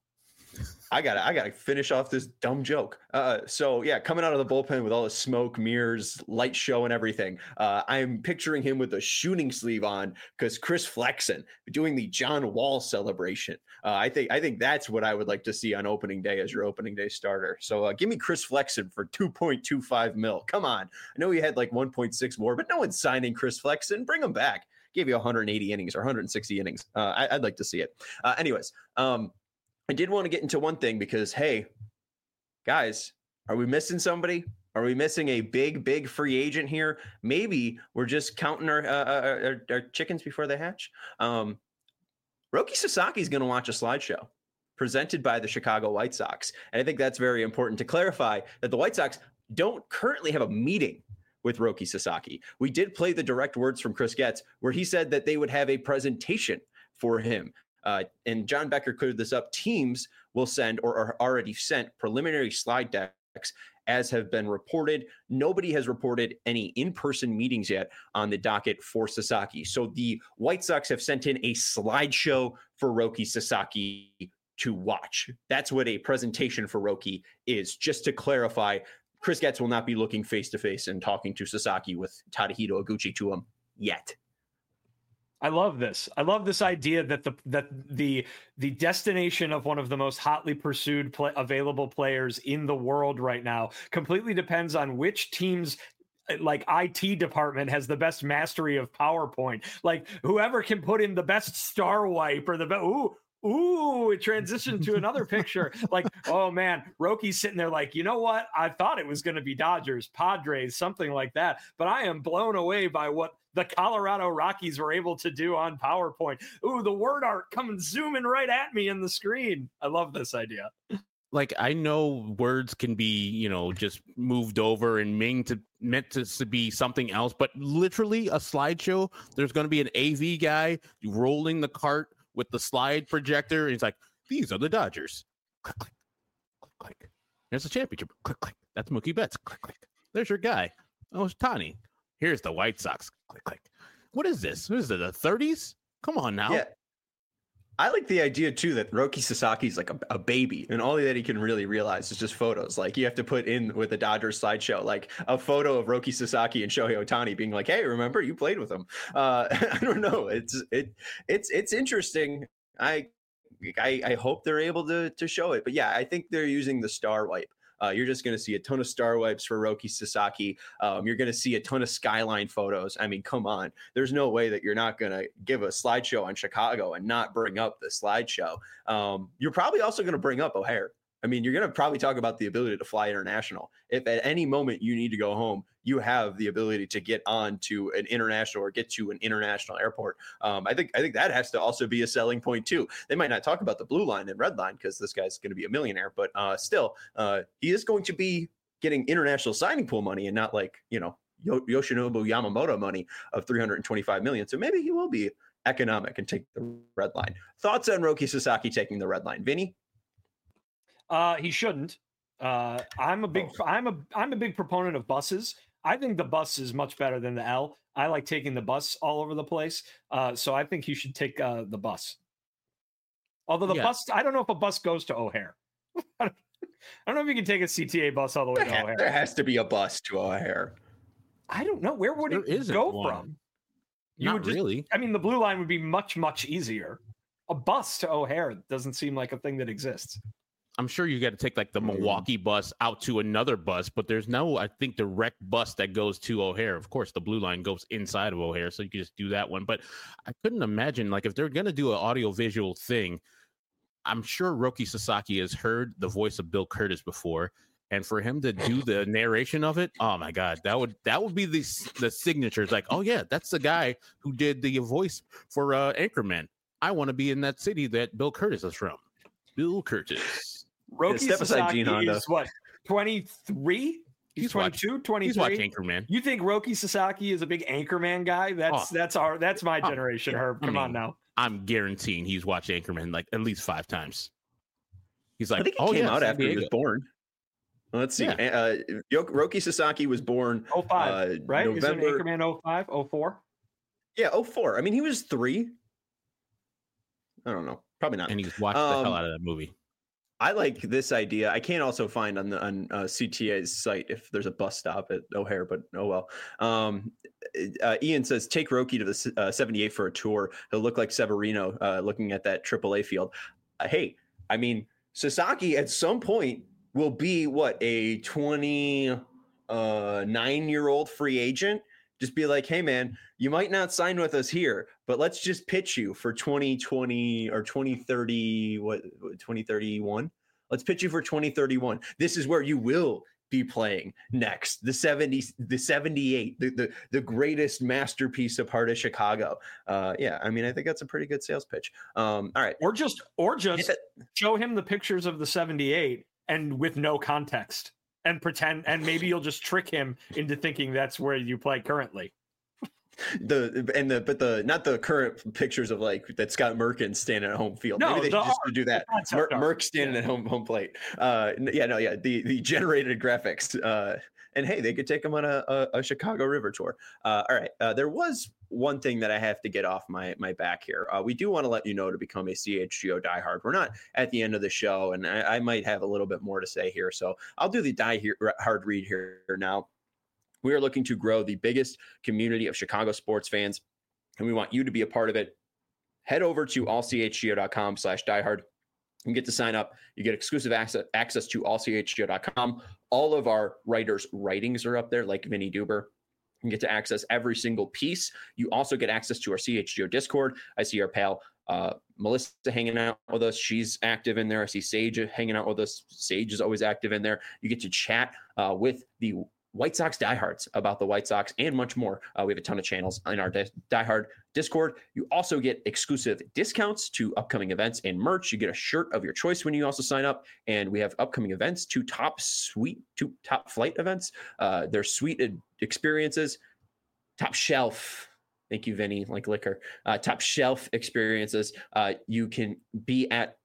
[SPEAKER 1] I gotta finish off this dumb joke. Coming out of the bullpen with all the smoke, mirrors, light show, and everything. I'm picturing him with a shooting sleeve on because Chris Flexen doing the John Wall celebration. I think that's what I would like to see on opening day as your opening day starter. So give me Chris Flexen for $2.25 million. Come on, I know he had like 1.6 more, but no one's signing Chris Flexen. Bring him back. Give you 180 innings or 160 innings. I'd like to see it. I did want to get into one thing because, hey, guys, are we missing somebody? Are we missing a big free agent here? Maybe we're just counting our chickens before they hatch. Roki Sasaki is going to watch a slideshow presented by the Chicago White Sox. And I think that's very important to clarify that the White Sox don't currently have a meeting with Roki Sasaki. We did play the direct words from Chris Getz where he said that they would have a presentation for him. And John Becker cleared this up. Teams will send or are already sent preliminary slide decks as have been reported. Nobody has reported any in-person meetings yet on the docket for Sasaki. So the White Sox have sent in a slideshow for Roki Sasaki to watch. That's what a presentation for Roki is. Just to clarify, Chris Getz will not be looking face-to-face and talking to Sasaki with Tadahito Iguchi to him yet.
[SPEAKER 3] I love this. I love this idea that the destination of one of the most hotly pursued available players in the world right now completely depends on which team's IT department has the best mastery of PowerPoint. Like whoever can put in the best star wipe or the best. It transitioned to another picture. Like, oh man, Roki's sitting there like, you know what? I thought it was going to be Dodgers, Padres, something like that. But I am blown away by what the Colorado Rockies were able to do on PowerPoint. The word art coming zooming right at me in the screen. I love this idea.
[SPEAKER 2] Like, I know words can be, just moved over and meant to be something else, but literally a slideshow, there's going to be an AV guy rolling the cart with the slide projector. And he's like, these are the Dodgers. Click, click, click, click. There's a championship. Click, click. That's Mookie Betts. Click, click. There's your guy. Oh, it's Tani. Here's the White Sox. Click, click. What is this? What is it, the 30s? Come on now.
[SPEAKER 1] Yeah. I like the idea too that Roki Sasaki is like a baby, and all that he can really realize is just photos. Like you have to put in with the Dodgers slideshow, like a photo of Roki Sasaki and Shohei Ohtani being like, "Hey, remember you played with him?" I don't know. It's interesting. I hope they're able to show it, but yeah, I think they're using the star wipe. You're just going to see a ton of star wipes for Roki Sasaki. You're going to see a ton of skyline photos. I mean, come on. There's no way that you're not going to give a slideshow on Chicago and not bring up the slideshow. You're probably also going to bring up O'Hare. I mean, you're going to probably talk about the ability to fly international. If at any moment you need to go home, you have the ability to get on to an international or get to an international airport. I think that has to also be a selling point too. They might not talk about the blue line and red line because this guy's going to be a millionaire, but still, he is going to be getting international signing pool money and not like, Yoshinobu Yamamoto money of $325 million. So maybe he will be economic and take the red line. Thoughts on Roki Sasaki taking the red line, Vinny?
[SPEAKER 3] He shouldn't. I'm a big proponent of buses. I think the bus is much better than the L. I like taking the bus all over the place. So I think he should take the bus. Although the bus, I don't know if a bus goes to O'Hare. I don't know if you can take a CTA bus all the way to O'Hare.
[SPEAKER 1] There has to be a bus to O'Hare.
[SPEAKER 3] I don't know. Where would it go from?
[SPEAKER 2] Not really.
[SPEAKER 3] I mean, the blue line would be much, much easier. A bus to O'Hare doesn't seem like a thing that exists.
[SPEAKER 2] I'm sure you got to take like the Milwaukee bus out to another bus, but there's no, I think, direct bus that goes to O'Hare. Of course, the blue line goes inside of O'Hare, so you can just do that one. But I couldn't imagine, like, if they're going to do an audio-visual thing, I'm sure Roki Sasaki has heard the voice of Bill Curtis before, and for him to do the narration of it, oh my God, that would be the signature. It's like, oh yeah, that's the guy who did the voice for Anchorman. I want to be in that city that Bill Curtis is from. Bill Curtis.
[SPEAKER 3] Roki Sasaki is what, 23? He's 22, 23.
[SPEAKER 2] He's watching Anchorman.
[SPEAKER 3] You think Roki Sasaki is a big Anchorman guy? That's my generation, Herb. Come on now.
[SPEAKER 2] I'm guaranteeing he's watched Anchorman like at least 5 times. He's like,
[SPEAKER 1] I think it came out after he was born. Let's see. Yeah. Roki Sasaki was born
[SPEAKER 3] 05, right?
[SPEAKER 1] November...
[SPEAKER 3] Is it Anchorman 05, 04?
[SPEAKER 1] Yeah, 04. I mean, he was 3. I don't know. Probably not.
[SPEAKER 2] And he's watched the hell out of that movie.
[SPEAKER 1] I like this idea. I can't also find on CTA's site if there's a bus stop at O'Hare, but oh well. Ian says, take Roki to the 78 for a tour. He'll look like Severino looking at that AAA field. Hey, I mean, Sasaki at some point will be a 29-year-old free agent. Just be like, hey man, you might not sign with us here, but let's just pitch you for 2020 or 2030, 2031. Let's pitch you for 2031. This is where you will be playing next. The 78, the greatest masterpiece of heart of Chicago. Yeah, I mean, I think that's a pretty good sales pitch. All right.
[SPEAKER 3] Or just show him the pictures of the 78 and with no context. And pretend, and maybe you'll just trick him into thinking that's where you play currently.
[SPEAKER 1] Not the current pictures of like that Scott Merkin standing at home field.
[SPEAKER 3] No,
[SPEAKER 1] maybe they should just do that. Merck standing at home plate. The generated graphics. And hey, they could take him on a Chicago River tour. All right. There was one thing that I have to get off my back here. We do want to let you know to become a CHGO diehard. We're not at the end of the show, and I might have a little bit more to say here. So I'll do the diehard read here now. We are looking to grow the biggest community of Chicago sports fans, and we want you to be a part of it. Head over to allchgo.com/diehard. You get to sign up. You get exclusive access to allchgo.com. All of our writers' writings are up there, like Vinny Duber. You get to access every single piece. You also get access to our CHGO Discord. I see our pal Melissa hanging out with us. She's active in there. I see Sage hanging out with us. Sage is always active in there. You get to chat with the White Sox diehards about the White Sox and much more. We have a ton of channels in our diehard Discord. You also get exclusive discounts to upcoming events and merch. You get a shirt of your choice when you also sign up. And we have upcoming events, 2 top flight events. They're suite experiences, top shelf. Thank you, Vinny, like liquor. Top shelf experiences. You can be at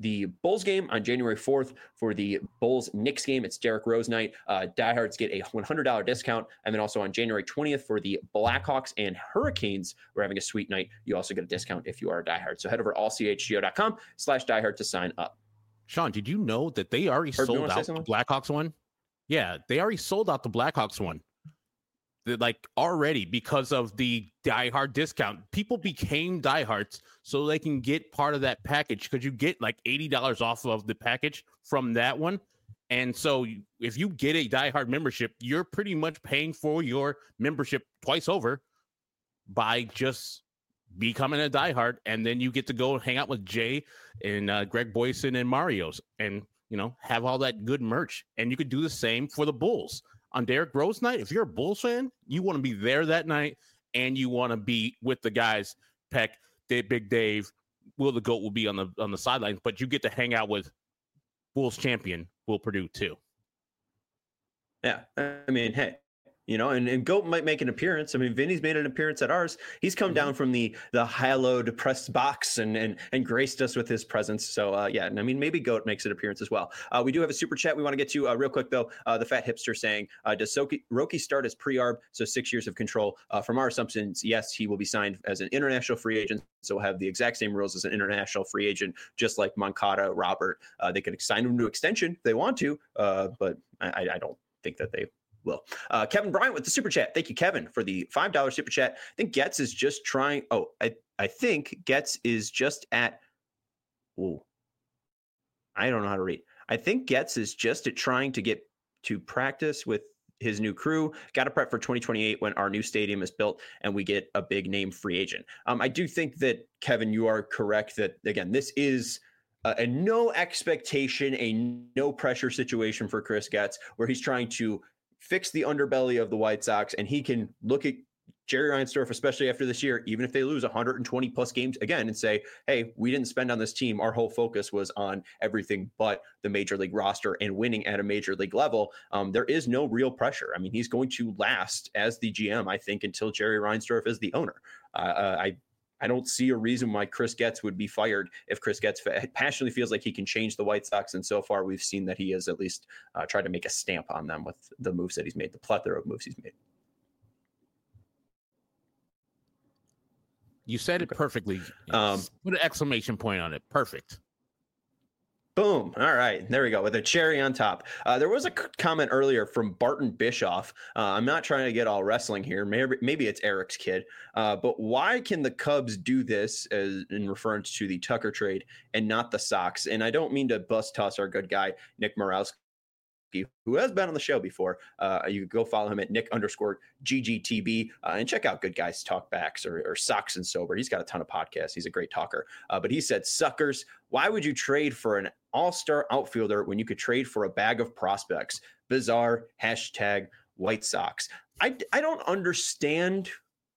[SPEAKER 1] the Bulls game on January 4th. For the Bulls-Knicks game, it's Derrick Rose night. Diehards get a $100 discount. And then also on January 20th for the Blackhawks and Hurricanes, we're having a sweet night. You also get a discount if you are a diehard. So head over to allchgo.com/diehard to sign up.
[SPEAKER 2] Sean, did you know that they already sold out the Blackhawks one? Yeah, they already sold out the Blackhawks one. Like already, because of the diehard discount. People became diehards so they can get part of that package, because you get like $80 off of the package from that one. And so if you get a diehard membership, you're pretty much paying for your membership twice over by just becoming a diehard. And then you get to go hang out with Jay and Greg Boyson and Mario's and, you know, have all that good merch. And you could do the same for the Bulls. On Derrick Rose night, if you're a Bulls fan, you want to be there that night, and you want to be with the guys, Peck, Big Dave, Will the GOAT will be on the sidelines, but you get to hang out with Bulls champion Will Perdue too.
[SPEAKER 1] Yeah, I mean, hey, you know, and GOAT might make an appearance. I mean, Vinny's made an appearance at ours. He's come down from the hallowed press box and graced us with his presence. So, yeah, and I mean, maybe GOAT makes an appearance as well. We do have a super chat we want to get to real quick, though. The Fat Hipster saying, does Roki start as pre-arb, so 6 years of control? From our assumptions, yes, he will be signed as an international free agent, so we'll have the exact same rules as an international free agent, just like Moncada, Robert. They could sign him to extension if they want to, but I don't think that they will. Kevin Bryant with the super chat. Thank you, Kevin, for the $5 super chat. I think Getz is just trying. Oh, I think Getz is just at. Oh, I don't know how to read. I think Getz is just at trying to get to practice with his new crew. Got to prep for 2028 when our new stadium is built and we get a big name free agent. I do think that, Kevin, you are correct that, again, this is a no expectation, a no pressure situation for Chris Getz, where he's trying to fix the underbelly of the White Sox, and he can look at Jerry Reinsdorf, especially after this year, even if they lose 120 plus games again, and say, hey, we didn't spend on this team. Our whole focus was on everything but the major league roster and winning at a major league level. There is no real pressure. I mean, he's going to last as the GM, I think, until Jerry Reinsdorf is the owner. I don't see a reason why Chris Getz would be fired if Chris Getz passionately feels like he can change the White Sox. And so far, we've seen that he has at least tried to make a stamp on them with the moves that he's made, the plethora of moves he's made.
[SPEAKER 2] You said it perfectly. Put an exclamation point on it. Perfect.
[SPEAKER 1] Boom. All right. There we go. With a cherry on top. There was a comment earlier from Barton Bischoff. I'm not trying to get all wrestling here. Maybe it's Eric's kid. But why can the Cubs do this, as in reference to the Tucker trade, and not the Sox? And I don't mean to bust toss our good guy, Nick Morowski, who has been on the show before. You can go follow him at Nick_GGTB and check out Good Guys Talk Backs or Sox and Sober. He's got a ton of podcasts. He's a great talker. But he said, suckers, why would you trade for an all-star outfielder when you could trade for a bag of prospects? Bizarre. #White Sox. I don't understand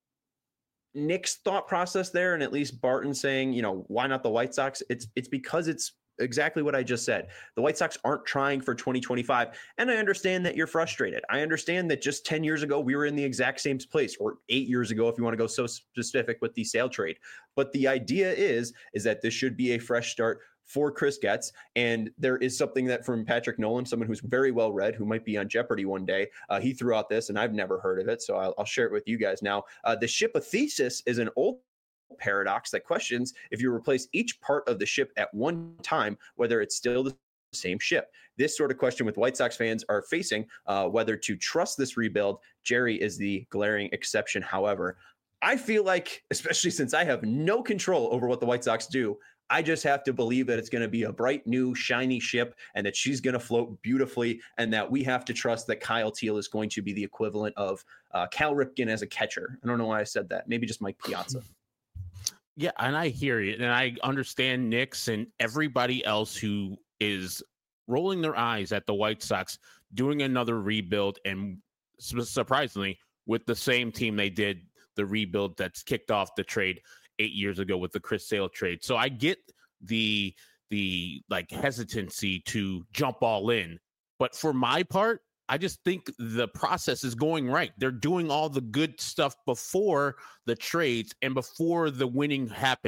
[SPEAKER 1] Nick's thought process there, and at least Barton saying, you know, why not the White Sox? It's because it's exactly what I just said. The White Sox aren't trying for 2025. And I understand that you're frustrated. I understand that just 10 years ago, we were in the exact same place, or 8 years ago, if you want to go so specific with the sale trade. But the idea is that this should be a fresh start for Chris Getz. And there is something that from Patrick Nolan, someone who's very well read, who might be on Jeopardy one day. He threw out this, and I've never heard of it. So I'll share it with you guys now. The shipothesis is an old paradox that questions if you replace each part of the ship at one time, whether it's still the same ship. This sort of question with White Sox fans are facing, whether to trust this rebuild. Jerry is the glaring exception. However, I feel like, especially since I have no control over what the White Sox do, I just have to believe that it's going to be a bright, new, shiny ship and that she's going to float beautifully, and that we have to trust that Kyle Teel is going to be the equivalent of Cal Ripken as a catcher. I don't know why I said that. Maybe just Mike Piazza.
[SPEAKER 2] Yeah, and I hear you, and I understand Knicks and everybody else who is rolling their eyes at the White Sox doing another rebuild, and surprisingly, with the same team they did the rebuild that's kicked off the trade 8 years ago with the Chris Sale trade. So I get the like hesitancy to jump all in, but for my part, I just think the process is going right. They're doing all the good stuff before the trades and before the winning happens.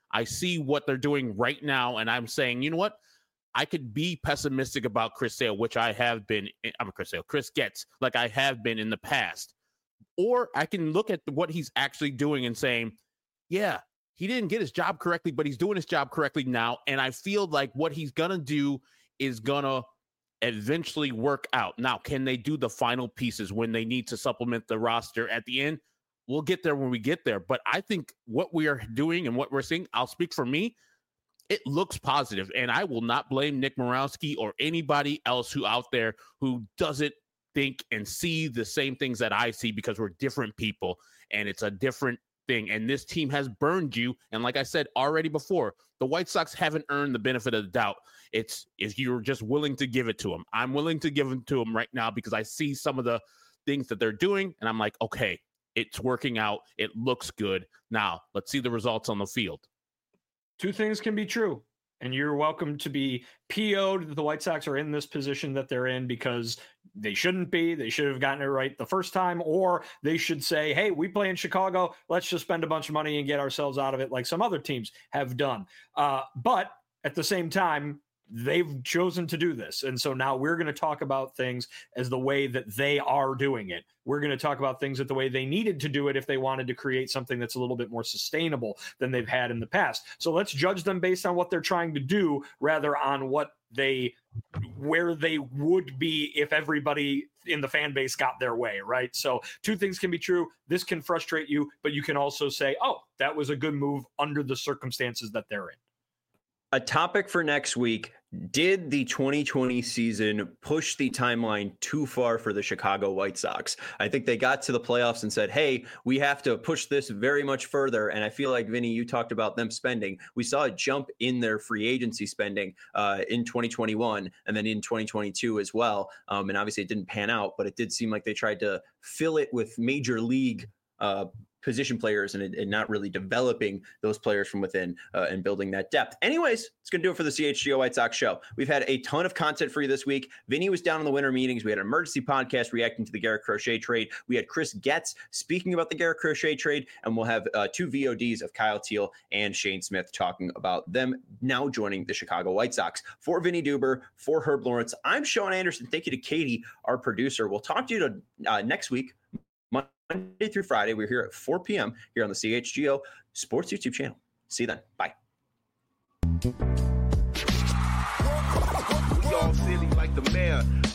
[SPEAKER 2] I see what they're doing right now, and I'm saying, you know what? I could be pessimistic about Chris Sale, which I have been. Chris Getz, like I have been in the past. Or I can look at what he's actually doing and saying, yeah, he didn't get his job correctly, but he's doing his job correctly now. And I feel like what he's going to do is going to eventually work out. Now, can they do the final pieces when they need to supplement the roster at the end? We'll get there when we get there. But I think what we are doing and what we're seeing, I'll speak for me, it looks positive, and I will not blame Nick Morawski or anybody else who out there who doesn't think and see the same things that I see, because we're different people and it's a different thing. And this team has burned you. And like I said already before, the White Sox haven't earned the benefit of the doubt. It's if you're just willing to give it to them. I'm willing to give it to them right now because I see some of the things that they're doing, and I'm like, okay, it's working out. It looks good. Now let's see the results on the field.
[SPEAKER 3] Two things can be true, and you're welcome to be PO'd that the White Sox are in this position that they're in because they shouldn't be. They should have gotten it right the first time, or they should say, hey, we play in Chicago. Let's just spend a bunch of money and get ourselves out of it like some other teams have done. But at the same time, they've chosen to do this. And so now we're going to talk about things as the way that they are doing it. We're going to talk about things at the way they needed to do it if they wanted to create something that's a little bit more sustainable than they've had in the past. So let's judge them based on what they're trying to do rather on where they would be if everybody in the fan base got their way, right? So two things can be true. This can frustrate you, but you can also say, oh, that was a good move under the circumstances that they're in.
[SPEAKER 1] A topic for next week: did the 2020 season push the timeline too far for the Chicago White Sox? I think they got to the playoffs and said, hey, we have to push this very much further. And I feel like, Vinny, you talked about them spending. We saw a jump in their free agency spending in 2021 and then in 2022 as well. And obviously it didn't pan out, but it did seem like they tried to fill it with major league position players and not really developing those players from within and building that depth. Anyways, it's going to do it for the CHGO White Sox show. We've had a ton of content for you this week. Vinny was down in the winter meetings. We had an emergency podcast reacting to the Garrett Crochet trade. We had Chris Getz speaking about the Garrett Crochet trade, and we'll have two VODs of Kyle Teal and Shane Smith talking about them now joining the Chicago White Sox. For Vinny Duber, for Herb Lawrence, I'm Sean Anderson. Thank you to Katie, our producer. We'll talk to you next week, Monday through Friday. We're here at 4 p.m. here on the CHGO Sports YouTube channel. See you then. Bye.
[SPEAKER 9] We all silly like the mayor.